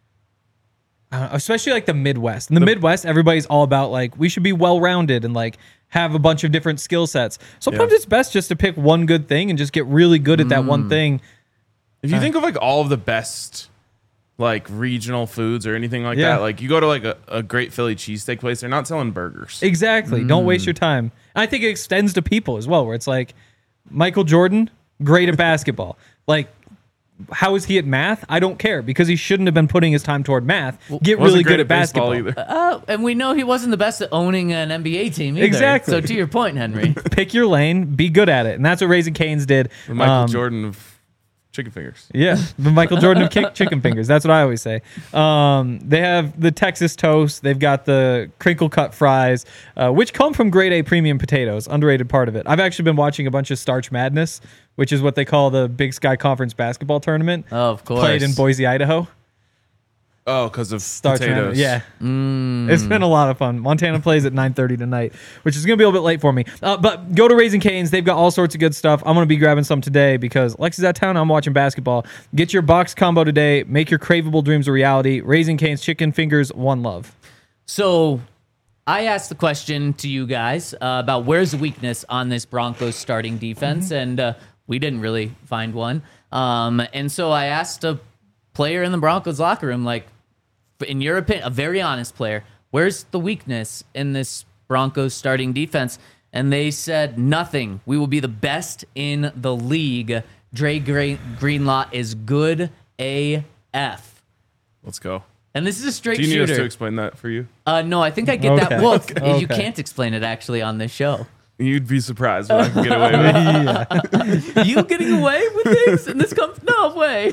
uh, especially like the Midwest. In the, the Midwest, everybody's all about like we should be well-rounded and like have a bunch of different skill sets. Sometimes Yeah. it's best just to pick one good thing and just get really good at that one thing. If you think of like all of the best like regional foods or anything like Yeah. that, like you go to like a, a great Philly cheesesteak place, they're not selling burgers. Exactly. Don't waste your time. And I think it extends to people as well, where it's like Michael Jordan, great at basketball. Like, how is he at math? I don't care because he shouldn't have been putting his time toward math. Get Wasn't really great good at baseball basketball. either. Uh, and we know he wasn't the best at owning an N B A team either. Exactly. So to your point, Henry. Pick your lane, be good at it. And that's what Raising Cane's did. Michael Um, Jordan of chicken fingers. Yeah, the Michael Jordan of kick chicken fingers. That's what I always say. Um, they have the Texas toast. They've got the crinkle cut fries, uh, which come from grade A premium potatoes. Underrated part of it. I've actually been watching a bunch of Starch Madness, which is what they call the Big Sky Conference basketball tournament. Oh, of course. Played in Boise, Idaho. Oh, because of Starch potatoes. Madness. Yeah. It's been a lot of fun. Montana plays at nine thirty tonight, which is going to be a little bit late for me. Uh, but go to Raising Cane's. They've got all sorts of good stuff. I'm going to be grabbing some today because Lexi's out of town. I'm watching basketball. Get your box combo today. Make your craveable dreams a reality. Raising Cane's chicken fingers, one love. So I asked the question to you guys uh, about where's the weakness on this Broncos starting defense, mm-hmm. and uh, we didn't really find one. Um, and so I asked a player in the Broncos locker room, like, in your opinion, a very honest player, where's the weakness in this Broncos starting defense? And they said nothing. We will be the best in the league. Dre Greenlaw is good A F. Let's go. And this is a straight shooter. Do you need shooter. us to explain that for you? Uh, no, I think I get Okay. that. Well, Okay. you can't explain it actually on this show. You'd be surprised what I can get away with. yeah. You getting away with things in this com- no way.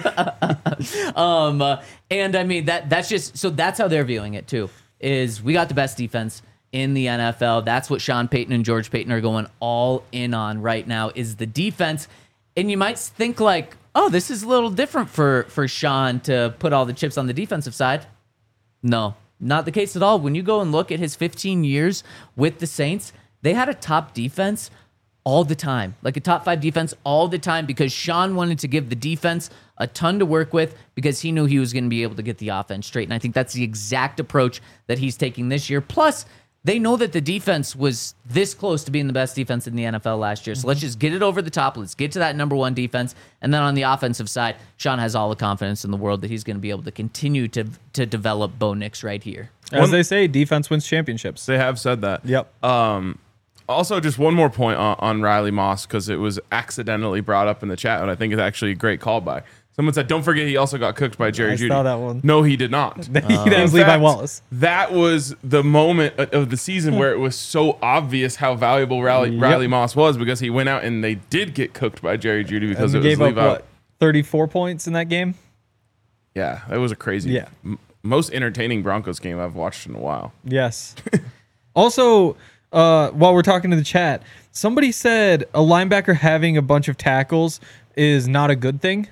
um, uh, and I mean that that's just so that's how they're viewing it too. Is we got the best defense in the N F L. That's what Sean Payton and George Payton are going all in on right now. Is the defense, and you might think like, oh, this is a little different for for Sean to put all the chips on the defensive side. No, not the case at all. When you go and look at his fifteen years with the Saints, they had a top defense all the time, like a top five defense all the time, because Sean wanted to give the defense a ton to work with because he knew he was going to be able to get the offense straight. And I think that's the exact approach that he's taking this year. Plus, they know that the defense was this close to being the best defense in the N F L last year. So let's just get it over the top. Let's get to that number one defense. And then on the offensive side, Sean has all the confidence in the world that he's going to be able to continue to to develop Bo Nix right here. As One- they say, defense wins championships. They have said that. Yep. Um, also, just one more point on, on Riley Moss, because it was accidentally brought up in the chat, and I think it's actually a great callback. Someone said, don't forget he also got cooked by Jerry I Jeudy. saw that one. No, he did not. that In was Levi fact, Wallace. That was the moment of the season where it was so obvious how valuable Riley, Yep. Riley Moss was, because he went out and they did get cooked by Jerry Jeudy because And it he was gave up Levi. what, thirty-four points in that game? Yeah, it was a crazy, Yeah. m- most entertaining Broncos game I've watched in a while. Yes. Also, uh, while we're talking to the chat, somebody said a linebacker having a bunch of tackles is not a good thing.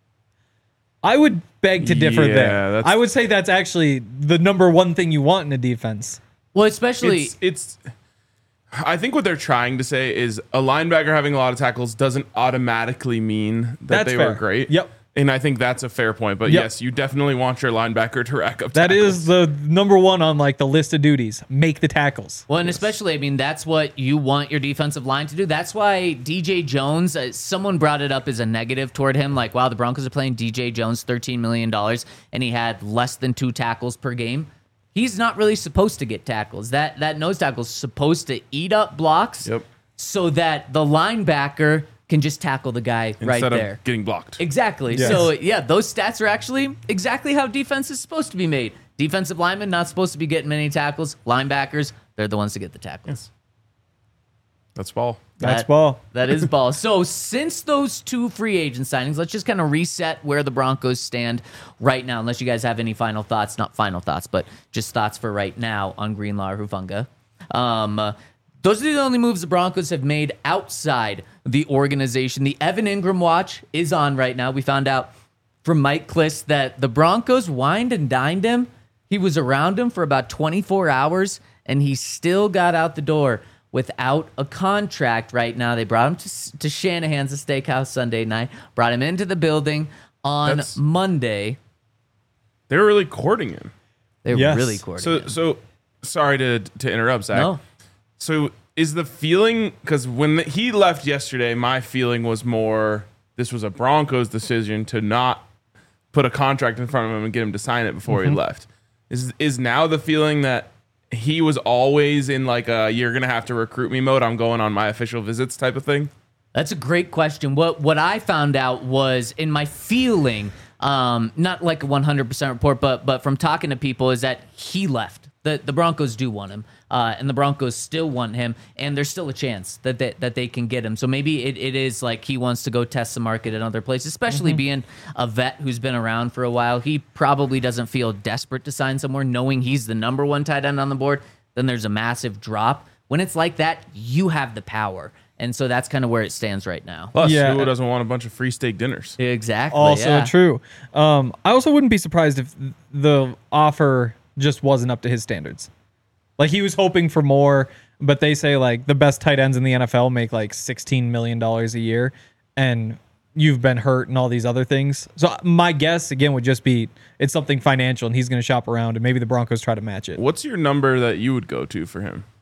I would beg to differ Yeah, there. that's- I would say that's actually the number one thing you want in a defense. Well, especially It's, it's. I think what they're trying to say is a linebacker having a lot of tackles doesn't automatically mean that That's they fair. were great. Yep. And I think that's a fair point. But Yep. yes, you definitely want your linebacker to rack up That tackles. is the number one on like the list of duties. Make the tackles. Well, and especially, I mean, that's what you want your defensive line to do. That's why D J Jones, uh, someone brought it up as a negative toward him. Like, wow, the Broncos are playing D J Jones thirteen million dollars, and he had less than two tackles per game. He's not really supposed to get tackles. That that nose tackle is supposed to eat up blocks Yep. so that the linebacker can just tackle the guy right Instead there. of getting blocked. Exactly. Yes. So, yeah, those stats are actually exactly how defense is supposed to be made. Defensive linemen not supposed to be getting many tackles. Linebackers, they're the ones to get the tackles. That's ball. That's That- ball. That is ball. So since those two free agent signings, let's just kind of reset where the Broncos stand right now, unless you guys have any final thoughts. Not final thoughts, but just thoughts for right now on Greenlaw or Hufanga. Um, uh, those are the only moves the Broncos have made outside the organization. The Evan Ingram watch is on right now. We found out from Mike Kliss that the Broncos wined and dined him. He was around him for about twenty-four hours, and he still got out the door without a contract right now. They brought him to, to Shanahan's Steakhouse Sunday night, brought him into the building on That's- Monday. They were really courting him. They were Yes. really courting So, him. so sorry to to interrupt, Zach. No. So is the feeling, because when the, he left yesterday, my feeling was more this was a Broncos decision to not put a contract in front of him and get him to sign it before Mm-hmm. he left. Is is now the feeling that he was always in like a you're gonna have to recruit me mode? I'm going on my official visits type of thing. That's a great question. What what I found out was in my feeling, um, not like a one hundred percent report, but but from talking to people, is that he left. The the Broncos do want him, uh, and the Broncos still want him, and there's still a chance that they, that they can get him. So maybe it, it is like he wants to go test the market in other places, especially being a vet who's been around for a while. He probably doesn't feel desperate to sign somewhere, knowing he's the number one tight end on the board. Then there's a massive drop. When it's like that, you have the power. And so that's kind of where it stands right now. Plus, Yeah. who doesn't want a bunch of free steak dinners? Exactly. Also yeah. true. Um, I also wouldn't be surprised if the offer just wasn't up to his standards. Like he was hoping for more, but they say like the best tight ends in the N F L make like sixteen million dollars a year. And you've been hurt and all these other things. So my guess again would just be it's something financial, and he's going to shop around, and maybe the Broncos try to match it. What's your number that you would go to for him?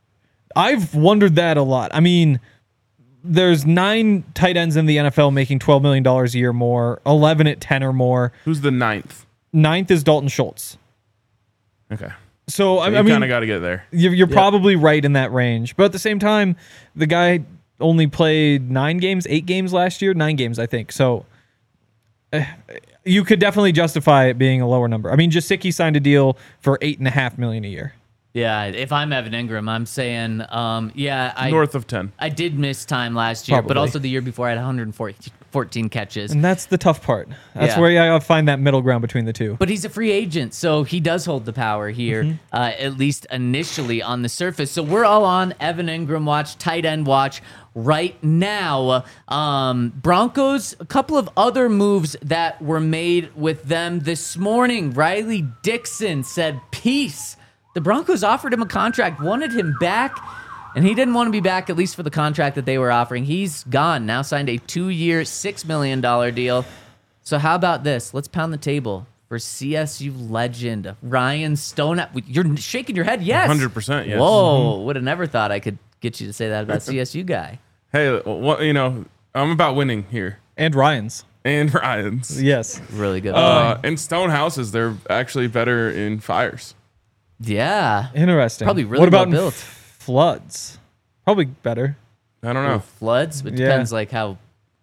I've wondered that a lot. I mean, there's nine tight ends in the N F L making twelve million dollars a year more, eleven at ten or more. Who's the ninth? Ninth is Dalton Schultz. Okay. So, So I, you I mean, kind of got to get there. you're, you're probably right in that range. But at the same time, the guy only played nine games, eight games last year, nine games, I think. So uh, you could definitely justify it being a lower number. I mean, Gesicki signed a deal for eight and a half million a year. Yeah, if I'm Evan Ingram, I'm saying, um, yeah, I North of ten. I did miss time last year, but Probably. also the year before I had one hundred fourteen catches. And that's the tough part. That's Yeah. where you gotta find that middle ground between the two. But he's a free agent, so he does hold the power here, Mm-hmm. uh, at least initially on the surface. So we're all on Evan Ingram watch, tight end watch right now. Um, Broncos, a couple of other moves that were made with them this morning. Riley Dixon said, peace. The Broncos offered him a contract, wanted him back, and he didn't want to be back, at least for the contract that they were offering. He's gone, now signed a two-year, six million dollars deal. So how about this? Let's pound the table for C S U legend Ryan Stone. You're shaking your head. Yes. one hundred percent, yes. Whoa. Would have never thought I could get you to say that about C S U guy. Hey, well, you know, I'm about winning here. And Ryan's. And Ryan's. Yes. Really good. Uh, and Stone houses, they're actually better in fires. yeah. Interesting. Probably really what about well in built. f- floods? Probably better. I don't know. Floods? It Yeah. depends like how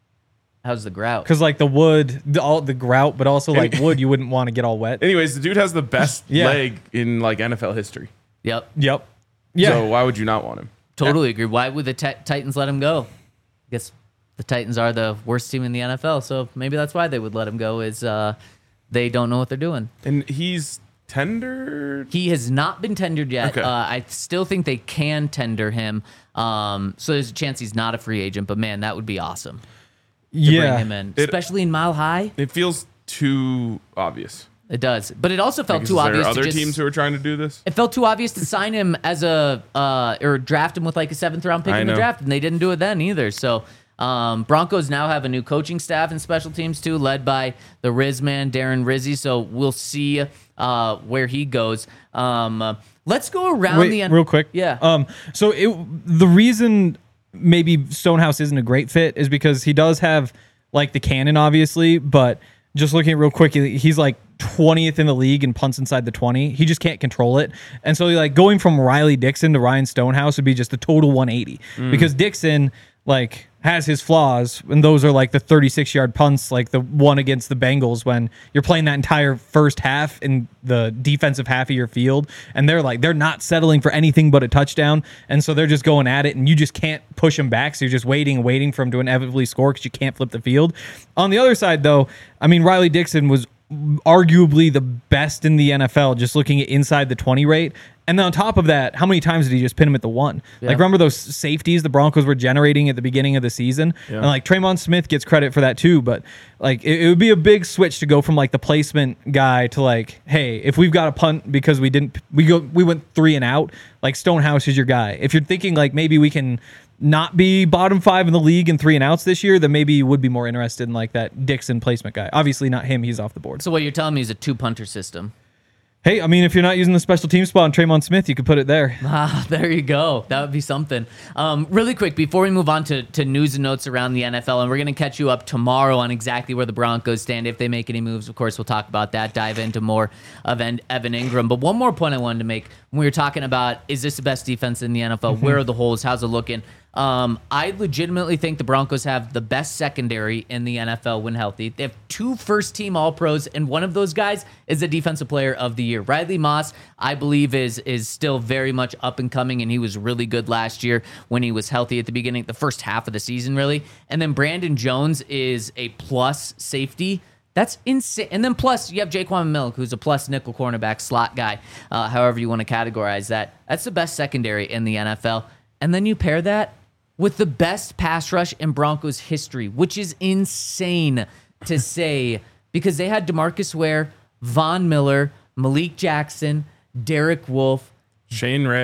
how's the grout. Because like the wood, the, all the grout, but also like wood, you wouldn't want to get all wet. Anyways, the dude has the best Yeah. leg in like N F L history. Yep. Yep. Yeah. So why would you not want him? Totally agree. Why would the ti- Titans let him go? I guess the Titans are the worst team in the N F L, so maybe that's why they would let him go. Is uh, they don't know what they're doing. And he's tendered. He has not been tendered yet. Okay. Uh, I still think they can tender him. Um, so there's a chance he's not a free agent. But man, that would be awesome to yeah. bring him in, It- especially in Mile High. It feels too obvious. It does, but it also felt Like, too is there obvious. other to just, teams who are trying to do this? It felt too obvious to sign him as a uh, or draft him with like a seventh round pick I in the know. draft, and they didn't do it then either. So um, Broncos now have a new coaching staff and special teams too, led by the Riz man Darren Rizzi. So we'll see uh, where he goes. Um, uh, let's go around Wait, the end. real quick. Yeah. Um. So it the reason maybe Stonehouse isn't a great fit is because he does have like the cannon, obviously, but just looking at it real quick, he- he's like twentieth in the league in punts inside the twenty. He just can't control it. And so like going from Riley Dixon to Ryan Stonehouse would be just a total one eighty because Dixon like has his flaws, and those are like the thirty-six yard punts, like the one against the Bengals when you're playing that entire first half in the defensive half of your field, and they're like they're not settling for anything but a touchdown, and so they're just going at it, and you just can't push them back, so you're just waiting and waiting for them to inevitably score because you can't flip the field. On the other side, though, I mean, Riley Dixon was arguably the best in the N F L just looking at inside the twenty rate. And then on top of that, how many times did he just pin him at the one? Yeah. Like, remember those safeties the Broncos were generating at the beginning of the season? And like Traymon Smith gets credit for that too, but like it, it would be a big switch to go from like the placement guy to like, hey, if we've got a punt because we didn't we go we went three and out, like Stonehouse is your guy. If you're thinking like maybe we can not be bottom five in the league in three and outs this year, then maybe you would be more interested in like that Dixon placement guy. Obviously not him, he's off the board. So what you're telling me is a two punter system. Hey, I mean, if you're not using the special team spot on Traymon Smith, you could put it there. Ah, there you go. That would be something. Um, really quick, before we move on to, to news and notes around the N F L, and we're going to catch you up tomorrow on exactly where the Broncos stand. If they make any moves, of course, we'll talk about that, dive into more of en- Evan Ingram. But one more point I wanted to make when we were talking about, is this the best defense in the N F L? Where are the holes? How's it looking? Um, I legitimately think the Broncos have the best secondary in the N F L when healthy. They have two first-team All-Pros, and one of those guys is the Defensive Player of the Year. Riley Moss, I believe, is is still very much up and coming, and he was really good last year when he was healthy at the beginning, the first half of the season, really. And then Brandon Jones is a plus safety. That's insane. And then plus, you have Jaquan Milk, who's a plus nickel cornerback slot guy, uh, however you want to categorize that. That's the best secondary in the N F L. And then you pair that with the best pass rush in Broncos history, which is insane to say because they had DeMarcus Ware, Von Miller, Malik Jackson, Derek Wolfe, Shane Ray.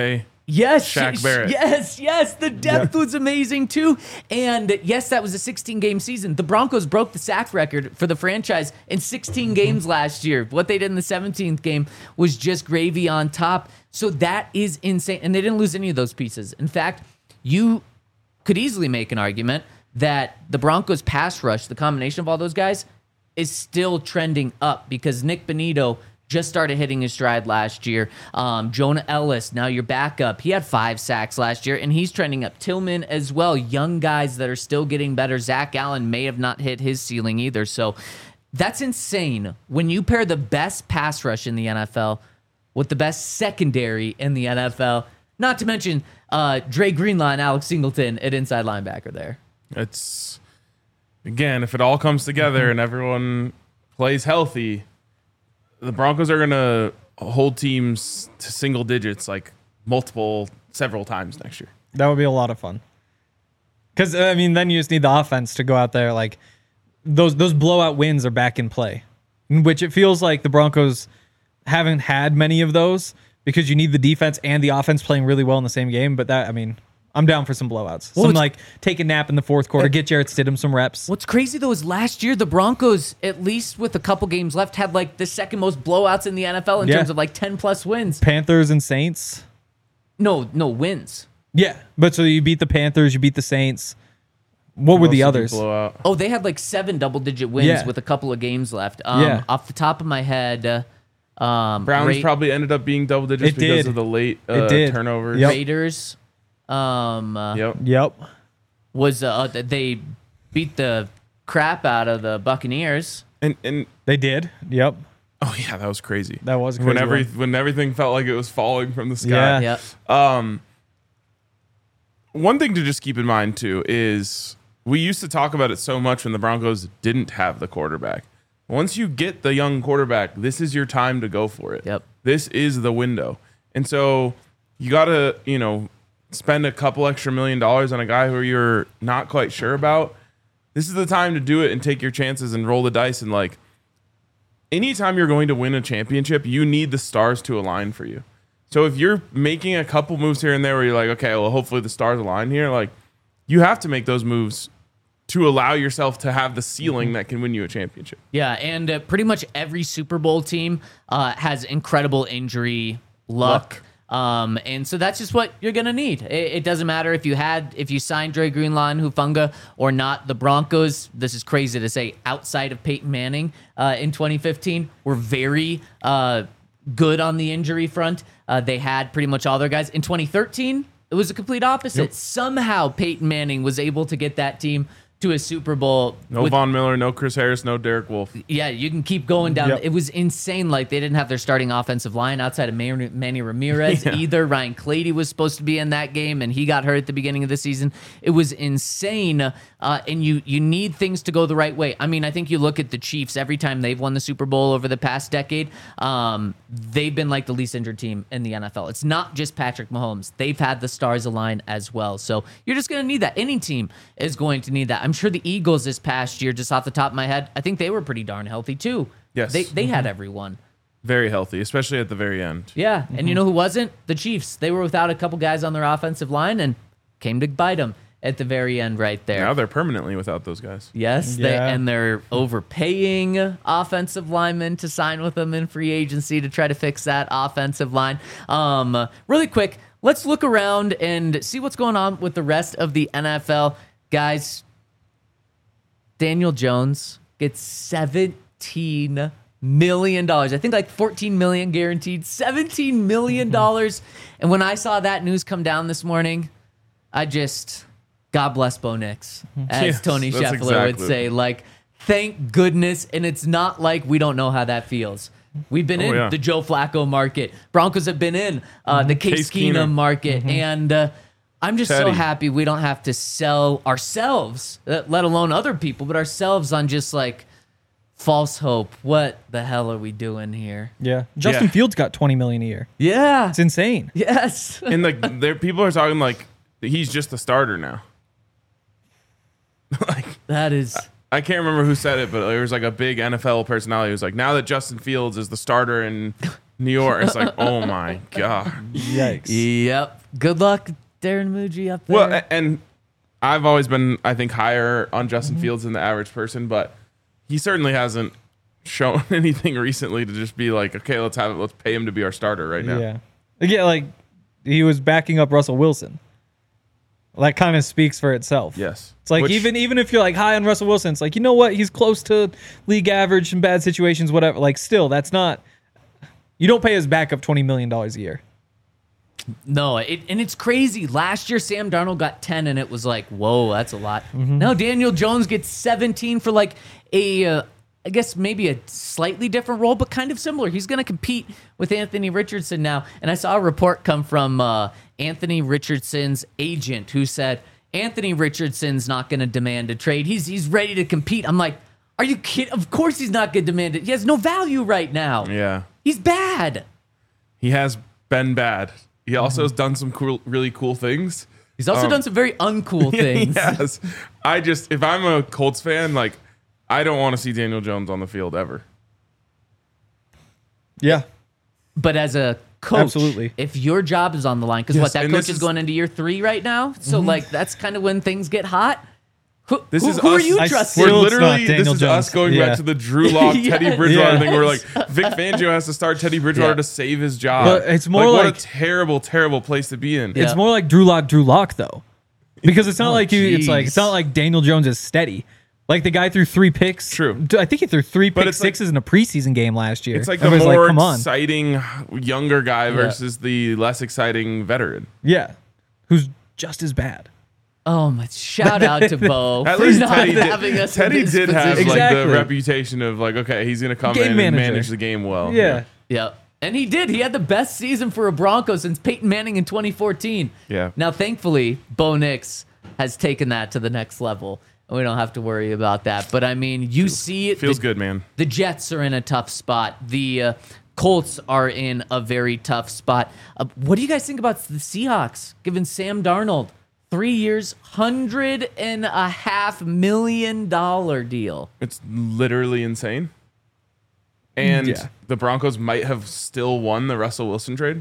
Yes, Shaq sh- Barrett. Yes, yes. The depth Yeah. was amazing too. And yes, that was a sixteen game season. The Broncos broke the sack record for the franchise in sixteen games last year. What they did in the seventeenth game was just gravy on top. So that is insane. And they didn't lose any of those pieces. In fact, you could easily make an argument that the Broncos pass rush, the combination of all those guys, is still trending up because Nick Bonito just started hitting his stride last year. Um, Jonah Ellis, now your backup. He had five sacks last year, and he's trending up. Tillman as well. Young guys that are still getting better. Zach Allen may have not hit his ceiling either. So that's insane. When you pair the best pass rush in the N F L with the best secondary in the N F L, not to mention uh, Dre Greenlaw and Alex Singleton at inside linebacker there. It's, again, if it all comes together and everyone plays healthy, the Broncos are going to hold teams to single digits like multiple, several times next year. That would be a lot of fun. Because, I mean, then you just need the offense to go out there. Like, those those blowout wins are back in play, in which it feels like the Broncos haven't had many of those because you need the defense and the offense playing really well in the same game. But that, I mean, I'm down for some blowouts. Well, some, it's- like, take a nap in the fourth quarter, get Jarrett Stidham some reps. What's crazy though is last year the Broncos, at least with a couple games left, had like the second most blowouts in the N F L in Yeah. terms of like ten plus wins. Panthers and Saints. No, no wins. Yeah, but so you beat the Panthers, you beat the Saints. What were Most the of you others? blow out. Oh, they had like seven double digit wins Yeah. with a couple of games left. Um, Yeah. Off the top of my head, uh, um, Browns Ra- probably ended up being double digits It because did. of the late It uh, did. turnovers. Yep. Raiders um, uh, Yep. Yep. was uh, they beat the crap out of the Buccaneers. And and They did. Yep. oh yeah, that was crazy. That was a when crazy every one. when everything felt like it was falling from the sky. Yeah. Yep. Um, one thing to just keep in mind too is we used to talk about it so much when the Broncos didn't have the quarterback. Once you get the young quarterback, this is your time to go for it. Yep. This is the window. And so you got to, you know, spend a couple extra million dollars on a guy who you're not quite sure about. This is the time to do it and take your chances and roll the dice. And like, anytime you're going to win a championship, you need the stars to align for you. So if you're making a couple moves here and there where you're like, okay, well, hopefully the stars align here, like you have to make those moves to allow yourself to have the ceiling that can win you a championship. Yeah, and uh, pretty much every Super Bowl team uh, has incredible injury luck. Um, and so that's just what you're gonna need. It, it doesn't matter if you had if you signed Dre Greenlaw and Hufanga or not. The Broncos, this is crazy to say, outside of Peyton Manning uh, in twenty fifteen, were very uh, good on the injury front. Uh, they had pretty much all their guys. In twenty thirteen, it was a complete opposite. Yep. Somehow Peyton Manning was able to get that team to a Super Bowl. No with- Von Miller, no Chris Harris, no Derek Wolfe. yeah, you can keep going down. Yep. It was insane. Like they didn't have their starting offensive line outside of Man- Manny Ramirez either. Ryan Clady was supposed to be in that game, and he got hurt at the beginning of the season. It was insane. Uh, and you you need things to go the right way. I mean, I think you look at the Chiefs every time they've won the Super Bowl over the past decade. Um, they've been like the least injured team in the N F L. It's not just Patrick Mahomes. They've had the stars align as well. So you're just going to need that. Any team is going to need that. I'm sure the Eagles this past year, just off the top of my head, I think they were pretty darn healthy too. Yes. They they had everyone. Very healthy, especially at the very end. Yeah. And you know who wasn't? The Chiefs. They were without a couple guys on their offensive line and came to bite them at the very end right there. Now they're permanently without those guys. Yes, they, Yeah. and they're overpaying offensive linemen to sign with them in free agency to try to fix that offensive line. Um, really quick, let's look around and see what's going on with the rest of the N F L. Guys, Daniel Jones gets seventeen million dollars. I think like fourteen million dollars guaranteed, seventeen million dollars. And when I saw that news come down this morning, I just... God bless Bo Nix, as Yes, Tony that's Scheffler would exactly. say. Like, thank goodness. And it's not like we don't know how that feels. We've been Oh, in yeah. the Joe Flacco market. Broncos have been in uh, the Case, Case Keenum, Keenum. market. And uh, I'm just so Teddy. happy we don't have to sell ourselves, uh, let alone other people, but ourselves on just like false hope. What the hell are we doing here? Yeah. Justin Yeah. Fields got twenty million dollars a year. Yeah. It's insane. Yes. And like there people are talking like he's just a starter now. like That is. I can't remember who said it, but there was like a big N F L personality who was like, now that Justin Fields is the starter and New York. It's like, oh my god. Yikes. Yep. Good luck, Darren Muji up there. Well, a- and I've always been, I think, higher on Justin Mm-hmm. Fields than the average person, but he certainly hasn't shown anything recently to just be like, okay, let's have it. Let's pay him to be our starter right now. Yeah. Yeah, like he was backing up Russell Wilson. That kind of speaks for itself. Yes. It's like Which- even even if you're like high on Russell Wilson, it's like, you know what? He's close to league average in bad situations, whatever. Like still, that's not you don't pay his backup twenty million dollars a year. No, it, and it's crazy. Last year, Sam Darnold got ten, and it was like, whoa, that's a lot. Now Daniel Jones gets seventeen for like a, uh, I guess maybe a slightly different role, but kind of similar. He's going to compete with Anthony Richardson now. And I saw a report come from uh, Anthony Richardson's agent who said Anthony Richardson's not going to demand a trade. He's he's ready to compete. I'm like, are you kidding? Of course he's not going to demand it. He has no value right now. Yeah. He's bad. He has been bad. He also has done some cool, really cool things. He's also Um, done some very uncool things. Yes. I just, if I'm a Colts fan, like, I don't want to see Daniel Jones on the field ever. Yeah. But as a coach, Absolutely. if your job is on the line, because Yes, what, that and coach this is is- going into year three right now. So, like, that's kind of when things get hot. Who, This who, is who are us- you I trusting? We're Still, it's literally, not this Daniel is Jones. us going Yeah. back to the Drew Lock, Teddy Yes. Bridgewater Yes. thing. We're like, Vic Fangio has to start Teddy Bridgewater Yeah. to save his job. But it's more what like- a terrible, terrible place to be in. Yeah. It's more like Drew Lock, Drew Lock though. Because it's not Oh, like you it's like jeez. it's not like Daniel Jones is steady. Like the guy threw three picks. True. I think he threw three But pick it's like- sixes in a preseason game last year. It's like the Everybody's more come on. exciting younger guy versus the less exciting veteran. Yeah. Who's just as bad. Oh, my. Shout out to Bo At for least not Teddy having did, us in Teddy this did have position. like Exactly. the reputation of like, okay, he's gonna come Game in and manager. manage the game well. Yeah. Yeah. And he did. He had the best season for a Bronco since Peyton Manning in twenty fourteen. Yeah. Now, thankfully, Bo Nix has taken that to the next level. We don't have to worry about that. But I mean, you see it. Feels the, good, man. The Jets are in a tough spot. The uh, Colts are in a very tough spot. Uh, what do you guys think about the Seahawks giving Sam Darnold three years, hundred and a half million dollar deal? It's literally insane. And Yeah. the Broncos might have still won the Russell Wilson trade.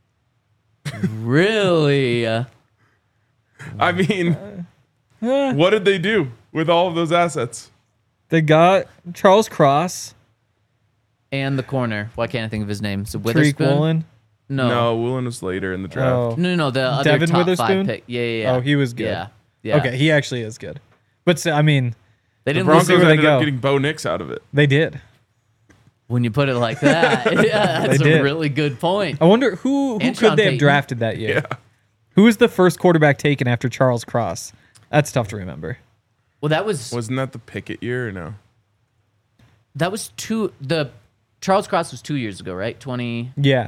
Really? Uh, I mean, what did they do with all of those assets? They got Charles Cross, and the corner. Why can't I think of his name? So Tariq Witherspoon. Woolen. No. No, Woolen was later in the draft. Oh. No, no, no. The other Devin top Witherspoon? five pick. Yeah, yeah, yeah. Oh, he was good. Yeah, yeah. Okay, he actually is good. But still, I mean, They The didn't Broncos lose where they ended up go. getting Bo Nix out of it. they did. when you put it like that. Yeah, that's They a did. really good point. I wonder who who And Sean could they have Payton. drafted that year? Yeah. Who was the first quarterback taken after Charles Cross? That's tough to remember. Well, that was Wasn't that the Pickett year or no? that was two. The Charles Cross was two years ago, right? Twenty. Yeah.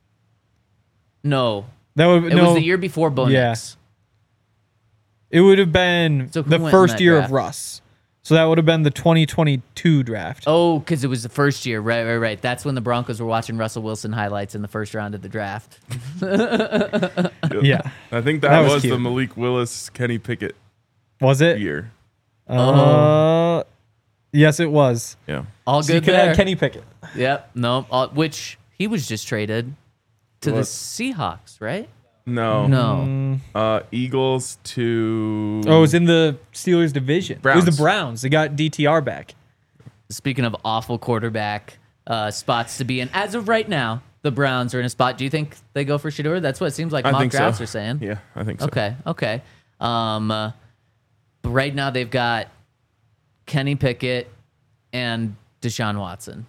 No, That would it no, was the year before Bo Yeah. Nix. It would have been So who the went in first that year draft? of Russ. So that would have been the twenty twenty-two draft. Oh, because it was the first year. Right, right, right. That's when the Broncos were watching Russell Wilson highlights in the first round of the draft. Yeah. I think that, That was was, the cute. Malik Willis, Kenny Pickett Was it? year. Uh, yes, it was. Yeah. All So you good could there. add Kenny Pickett. Yep. No. All, which he was just traded to the What? Seahawks, right? No. No. Uh, Eagles to. Oh, it was in the Steelers division. It was Browns. the Browns. They got D T R back. Speaking of awful quarterback uh, spots to be in, as of right now, the Browns are in a spot. Do you think they go for Shador? That's what it seems like I mock think drafts so. are saying. Yeah, I think so. Okay, okay. Um, uh, but right now they've got Kenny Pickett and Deshaun Watson.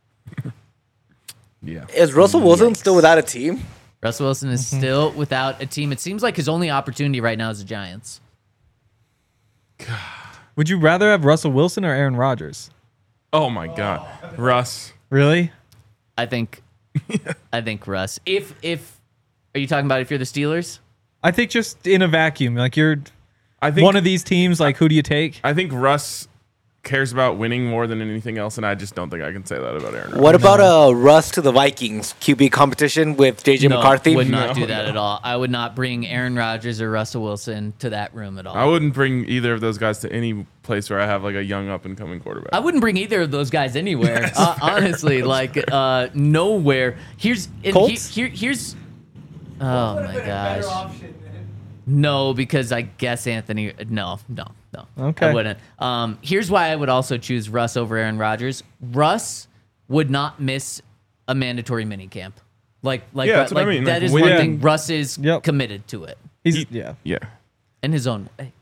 Yeah. Is Russell Wilson still without a team? Russell Wilson is Mm-hmm. still without a team. It seems like his only opportunity right now is the Giants. Would you rather have Russell Wilson or Aaron Rodgers? Oh my God, Russ. Really? I think. I think Russ. If if are you talking about if you're the Steelers? I think just in a vacuum, like you're I think one of these teams. Like, who do you take? I think Russ cares about winning more than anything else, and I just don't think I can say that about Aaron Rodgers. What about uh, Russ to the Vikings Q B competition with J J No, McCarthy? would not No, do that no. at all. I would not bring Aaron Rodgers or Russell Wilson to that room at all. I wouldn't bring either of those guys to any place where I have like a young up and coming quarterback. I wouldn't bring either of those guys anywhere. uh, honestly, like uh, nowhere. Here's and he, Colts? here. Here's. Oh my gosh. No, because I guess Anthony. No, no, no. Okay. I wouldn't. Um, here's why I would also choose Russ over Aaron Rodgers. Russ would not miss a mandatory minicamp. Like, like, Yeah, that's what I like mean. that Like, is when- one Yeah. thing. Russ is Yep. committed to it He's yeah. yeah. in his own way.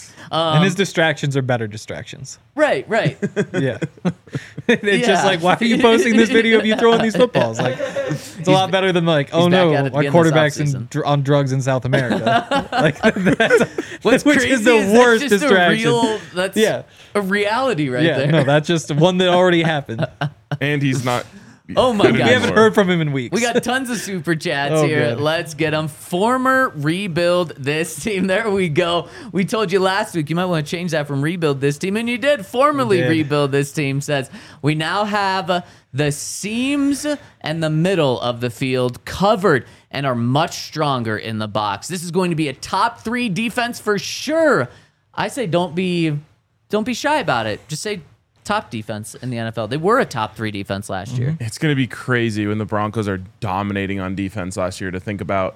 and his distractions are better distractions. Right, right. Yeah. It's Yeah. just like, why are you posting this video of you throwing these footballs? Like, it's a lot better than like, oh back no, at it our again this quarterback's in, offseason. dr- on drugs in South America. Like, that's, What's which crazy is the is worst that's just distraction. A real, that's Yeah. a reality right yeah, there. no, that's just one that already happened. And he's not. Oh my good God. We haven't anymore. heard from him in weeks. We got tons of super chats Oh, here. good. Let's get them. Former rebuild this team. There we go. We told you last week you might want to change that from rebuild this team, and you did. Formerly We did. rebuild this team says we now have uh, the seams and the middle of the field covered and are much stronger in the box. This is going to be a top three defense for sure. I say don't be don't be shy about it. Just say top defense in the N F L. They were a top three defense last Mm-hmm. year. It's going to be crazy when the Broncos are dominating on defense last year to think about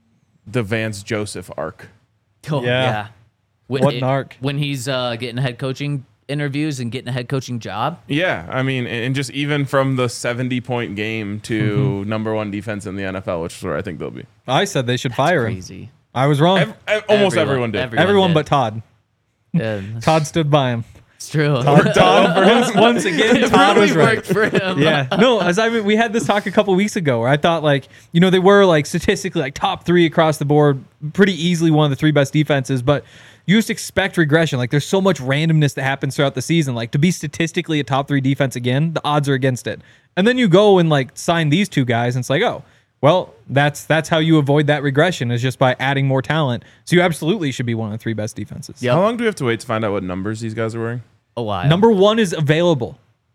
the Vance Joseph arc. Oh, Yeah. yeah. When, What an arc. When he's uh, getting head coaching interviews and getting a head coaching job. Yeah, I mean, and just even from the seventy point game to number one defense in the N F L, which is where I think they'll be. I said they should fire him. Crazy. I was wrong. Ev- ev- almost Everyone- everyone did. everyone Everyone did. but Todd. Yeah, Todd stood by him. it's true. Todd, for once, once again, it Todd really was right. worked for him. Yeah, no, as I mean, we had this talk a couple weeks ago where I thought like, you know, they were like statistically like top three across the board, pretty easily one of the three best defenses, but you just expect regression. Like there's so much randomness that happens throughout the season. Like to be statistically a top three defense again, the odds are against it. And then you go and like sign these two guys and it's like, oh, well, that's that's how you avoid that regression is just by adding more talent. So you absolutely should be one of the three best defenses. Yep. How long do we have to wait to find out what numbers these guys are wearing? A while. Number one is available.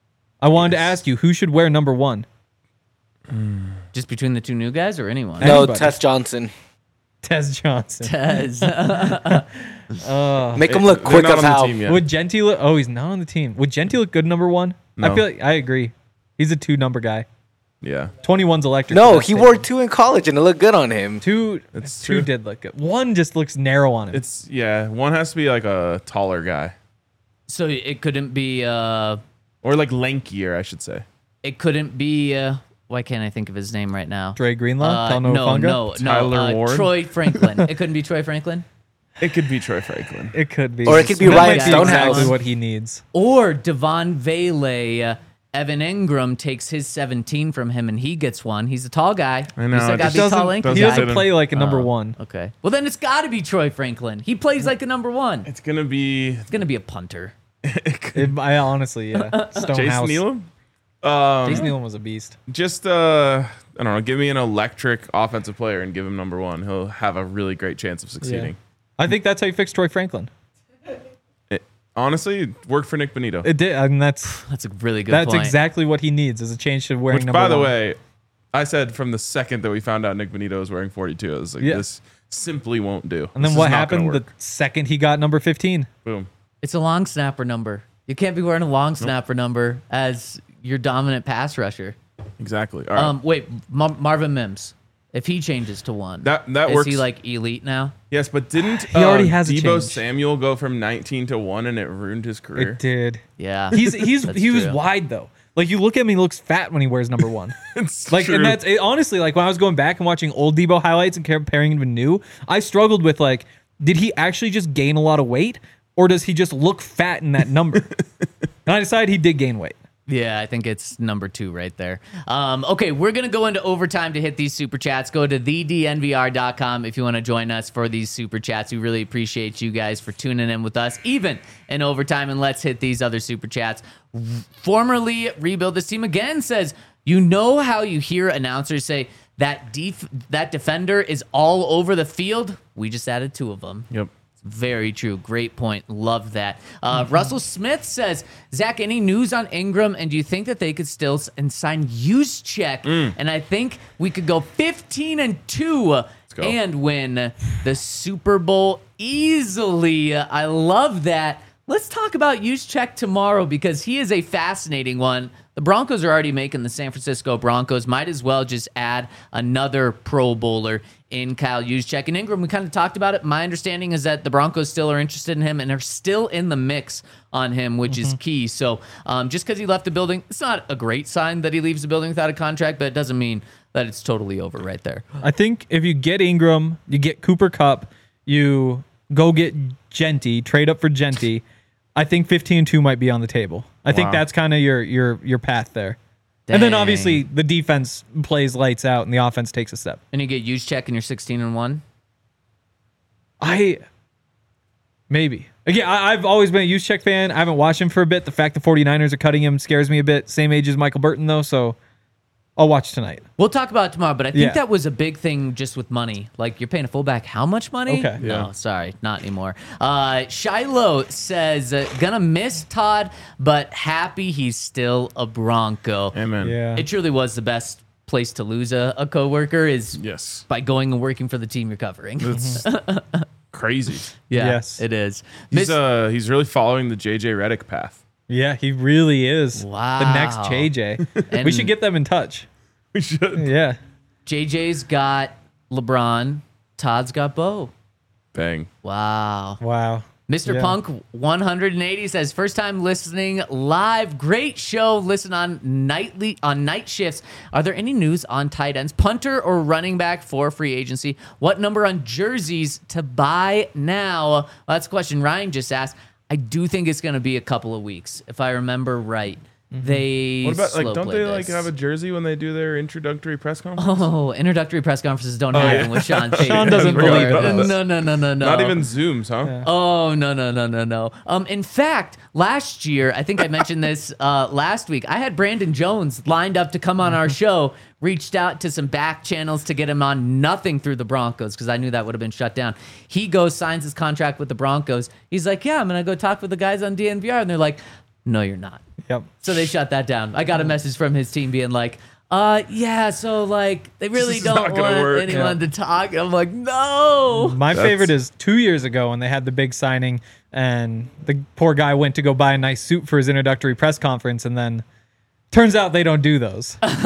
I wanted to ask you who should wear number one. Just between the two new guys or anyone? No, Anybody. Tess Johnson. Tez Johnson. Tez. Make him look They're quick not of on the how. team yet. Would Genty look? Oh, he's not on the team. Would Genty look good number one? I No. feel like I agree. He's a two number guy. Yeah, twenty-one's electric. No, That's he it. wore two in college and it looked good on him. two. It's two true. did look good. One just looks narrow on him. it's yeah. One has to be like a taller guy So it couldn't be. Uh, or like lankier, I should say. it couldn't be. Uh, why can't I think of his name right now? Dre Greenlaw. Uh, Talanoa no, Funga? no, no. Tyler uh, Ward? Troy Franklin. It couldn't be Troy Franklin. It could be Troy Franklin. It could be. Or it could be That Ryan might be Stonehouse. Exactly what he needs. Or Devon Vele. Uh, Evan Ingram takes his seventeen from him and he gets one. He's a tall guy. I know, He's it got to just be tall, doesn't- lanky doesn't He guy. doesn't fit him. play like a number Oh, one. Okay. Well, then it's got to be Troy Franklin. He plays like a number one. It's gonna be It's going to be a punter. It- I honestly, yeah. Stonehouse. Jason Nealon. Um, Jason Nealon was a beast. just uh, I don't know. Give me an electric offensive player and give him number one. He'll have a really great chance of succeeding. I think that's how you fix Troy Franklin. It, honestly, it worked for Nick Bonito. It did. I mean, that's That's a really good that's point. exactly what he needs is a change to wearing Which, number by the one. way, I said from the second that we found out Nick Bonito was wearing forty-two, I was like, Yeah. this simply won't do. And then This what is not gonna happened the work. second he got number fifteen? Boom. It's a long snapper number. You can't be wearing a long snapper number as your dominant pass rusher. Exactly. All right. Um, wait, Mar- Marvin Mims. If he changes to one, That- that is works. he like elite now? yes, but didn't He already has a Debo change. Samuel go from nineteen to one and it ruined his career? It did. Yeah, He's he's That's he was true. wide though. Like you look at him, he looks fat when he wears number one. It's Like, true. and that's it, honestly like when I was going back and watching old Debo highlights and comparing him to new, I struggled with like, did he actually just gain a lot of weight, or does he just look fat in that number? And I decided he did gain weight. Yeah, I think it's number two right there. Um, okay, we're going to go into overtime to hit these super chats. Go to the d n v r dot com if you want to join us for these super chats. We really appreciate you guys for tuning in with us, even in overtime. And let's hit these other super chats. Formerly Rebuild This Team again says, you know how you hear announcers say that def- that defender is all over the field? We just added two of them. Yep. Very true. Great point. Love that. Uh, mm-hmm. Russell Smith says, Zach, any news on Ingram? And do you think that they could still s- and sign Juszczyk? Mm. And I think we could go fifteen and two and win the Super Bowl easily. I love that. Let's talk about Juszczyk tomorrow because he is a fascinating one. The Broncos are already making the San Francisco Broncos. Might as well just add another Pro Bowler in Kyle Juszczyk. And Ingram, we kind of talked about it. My understanding is that the Broncos still are interested in him and are still in the mix on him, which mm-hmm. is key. So um, just because he left the building, it's not a great sign that he leaves the building without a contract, but it doesn't mean that it's totally over right there. I think if you get Ingram, you get Cooper Kupp, you go get Genty, trade up for Genty, I think fifteen and two might be on the table. I wow. think that's kind of your your your path there. Dang. And then obviously the defense plays lights out and the offense takes a step. And you get Juszczyk and you're sixteen and one? I maybe. Again, I, I've always been a Juszczyk fan. I haven't watched him for a bit. The fact the 49ers are cutting him scares me a bit. Same age as Michael Burton though, so I'll watch tonight. We'll talk about it tomorrow, but I think yeah. that was a big thing just with money. Like, you're paying a fullback how much money? Okay. No, yeah. sorry, not anymore. Uh, Shiloh says, uh, gonna miss Todd, but happy he's still a Bronco. Amen. Yeah. It truly was the best place to lose a, a coworker is yes. by going and working for the team you're covering. It's crazy. Yeah, yes. it is. He's, Miss- uh, he's really following the J J Redick path. Yeah, he really is. Wow. The next J J. We should get them in touch. We should. Yeah. J J's got LeBron. Todd's got Bo. Bang. Wow. Wow. Mister Yeah. Punk one eighty says, first time listening live. Great show. Listen on nightly on night shifts. Are there any news on tight ends, punter or running back for free agency? What number on jerseys to buy now? Well, that's a question Ryan just asked. I do think it's going to be a couple of weeks, if I remember right. They What about like? slow Don't play they like this. have a jersey when they do their introductory press conference? Oh, introductory press conferences don't Oh, happen yeah. with Sean Payton. Sean doesn't anymore. believe those. No, no, no, no, no. Not even Zooms, huh? Yeah. Oh, no, no, no, no, no. Um, in fact, last year, I think I mentioned this uh, last week, I had Brandon Jones lined up to come on our show, reached out to some back channels to get him on, nothing through the Broncos because I knew that would have been shut down. He goes, signs his contract with the Broncos. He's like, yeah, I'm going to go talk with the guys on D N V R. And they're like, no, you're not. Yep. So they shut that down. I got a message from his team being like, uh, yeah, so like they really This is don't not gonna want work. anyone to talk. I'm like, no. My That's- favorite is two years ago when they had the big signing and the poor guy went to go buy a nice suit for his introductory press conference and then turns out they don't do those. Who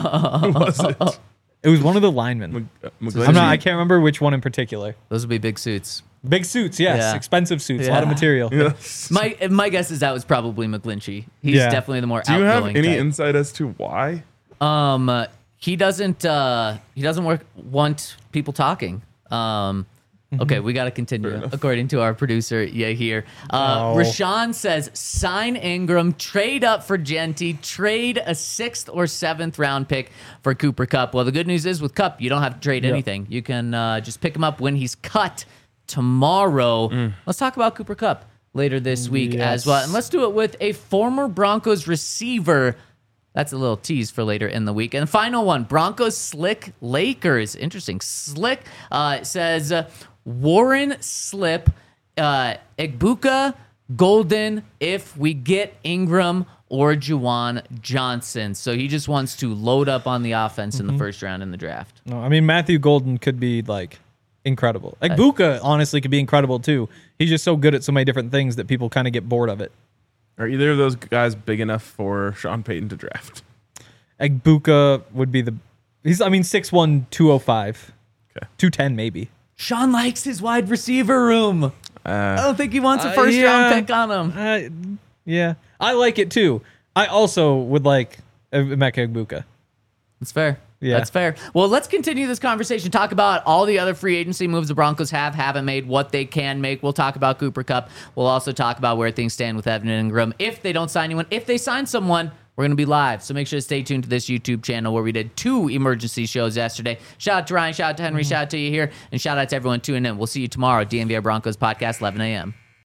was it? It was one of the linemen. Uh, I'm not, I can't remember which one in particular. Those would be big suits. Big suits, yes. Yeah. Expensive suits, a lot of Yeah. material. Yes. My my guess is that was probably McGlinchey. He's Yeah. definitely the more Do you have outgoing any type. insight as to why? Um, uh, he doesn't. Uh, he doesn't work, want people talking. Um, okay, we got to continue. According to our producer, yeah, here. Uh, Oh. Rashawn says sign Ingram, trade up for Genty, trade a sixth or seventh round pick for Cooper Kupp. Well, the good news is with Kupp, you don't have to trade Yep. anything. You can uh, just pick him up when he's cut tomorrow. Mm. Let's talk about Cooper Kupp later this week Yes. as well, and let's do it with a former Broncos receiver. That's a little tease for later in the week. And the final one, Broncos Slick Lakers. Interesting. Slick uh, says uh, Warren Slip, uh, Egbuka, Golden, if we get Ingram or Juwan Johnson. So he just wants to load up on the offense in the first round in the draft. No, I mean, Matthew Golden could be like incredible. Like Buka, honestly, could be incredible too. He's just so good at so many different things that people kind of get bored of it. Are either of those guys big enough for Sean Payton to draft? Egbuka would be the. He's, I mean, six one, two oh five. Okay. two ten maybe. Sean likes his wide receiver room. I Uh, don't think he wants a Uh, first yeah. round pick on him. Uh, yeah. I like it too. I also would like Emeka Egbuka. That's fair. Yeah. That's fair. Well, let's continue this conversation. Talk about all the other free agency moves the Broncos have, haven't made, what they can make. We'll talk about Cooper Kupp. We'll also talk about where things stand with Evan Ingram. If they don't sign anyone, if they sign someone, we're going to be live. So make sure to stay tuned to this YouTube channel where we did two emergency shows yesterday. Shout out to Ryan. Shout out to Henry. Shout out to you here. And shout out to everyone tuning in. We'll see you tomorrow. D N V R Broncos Podcast, eleven a.m.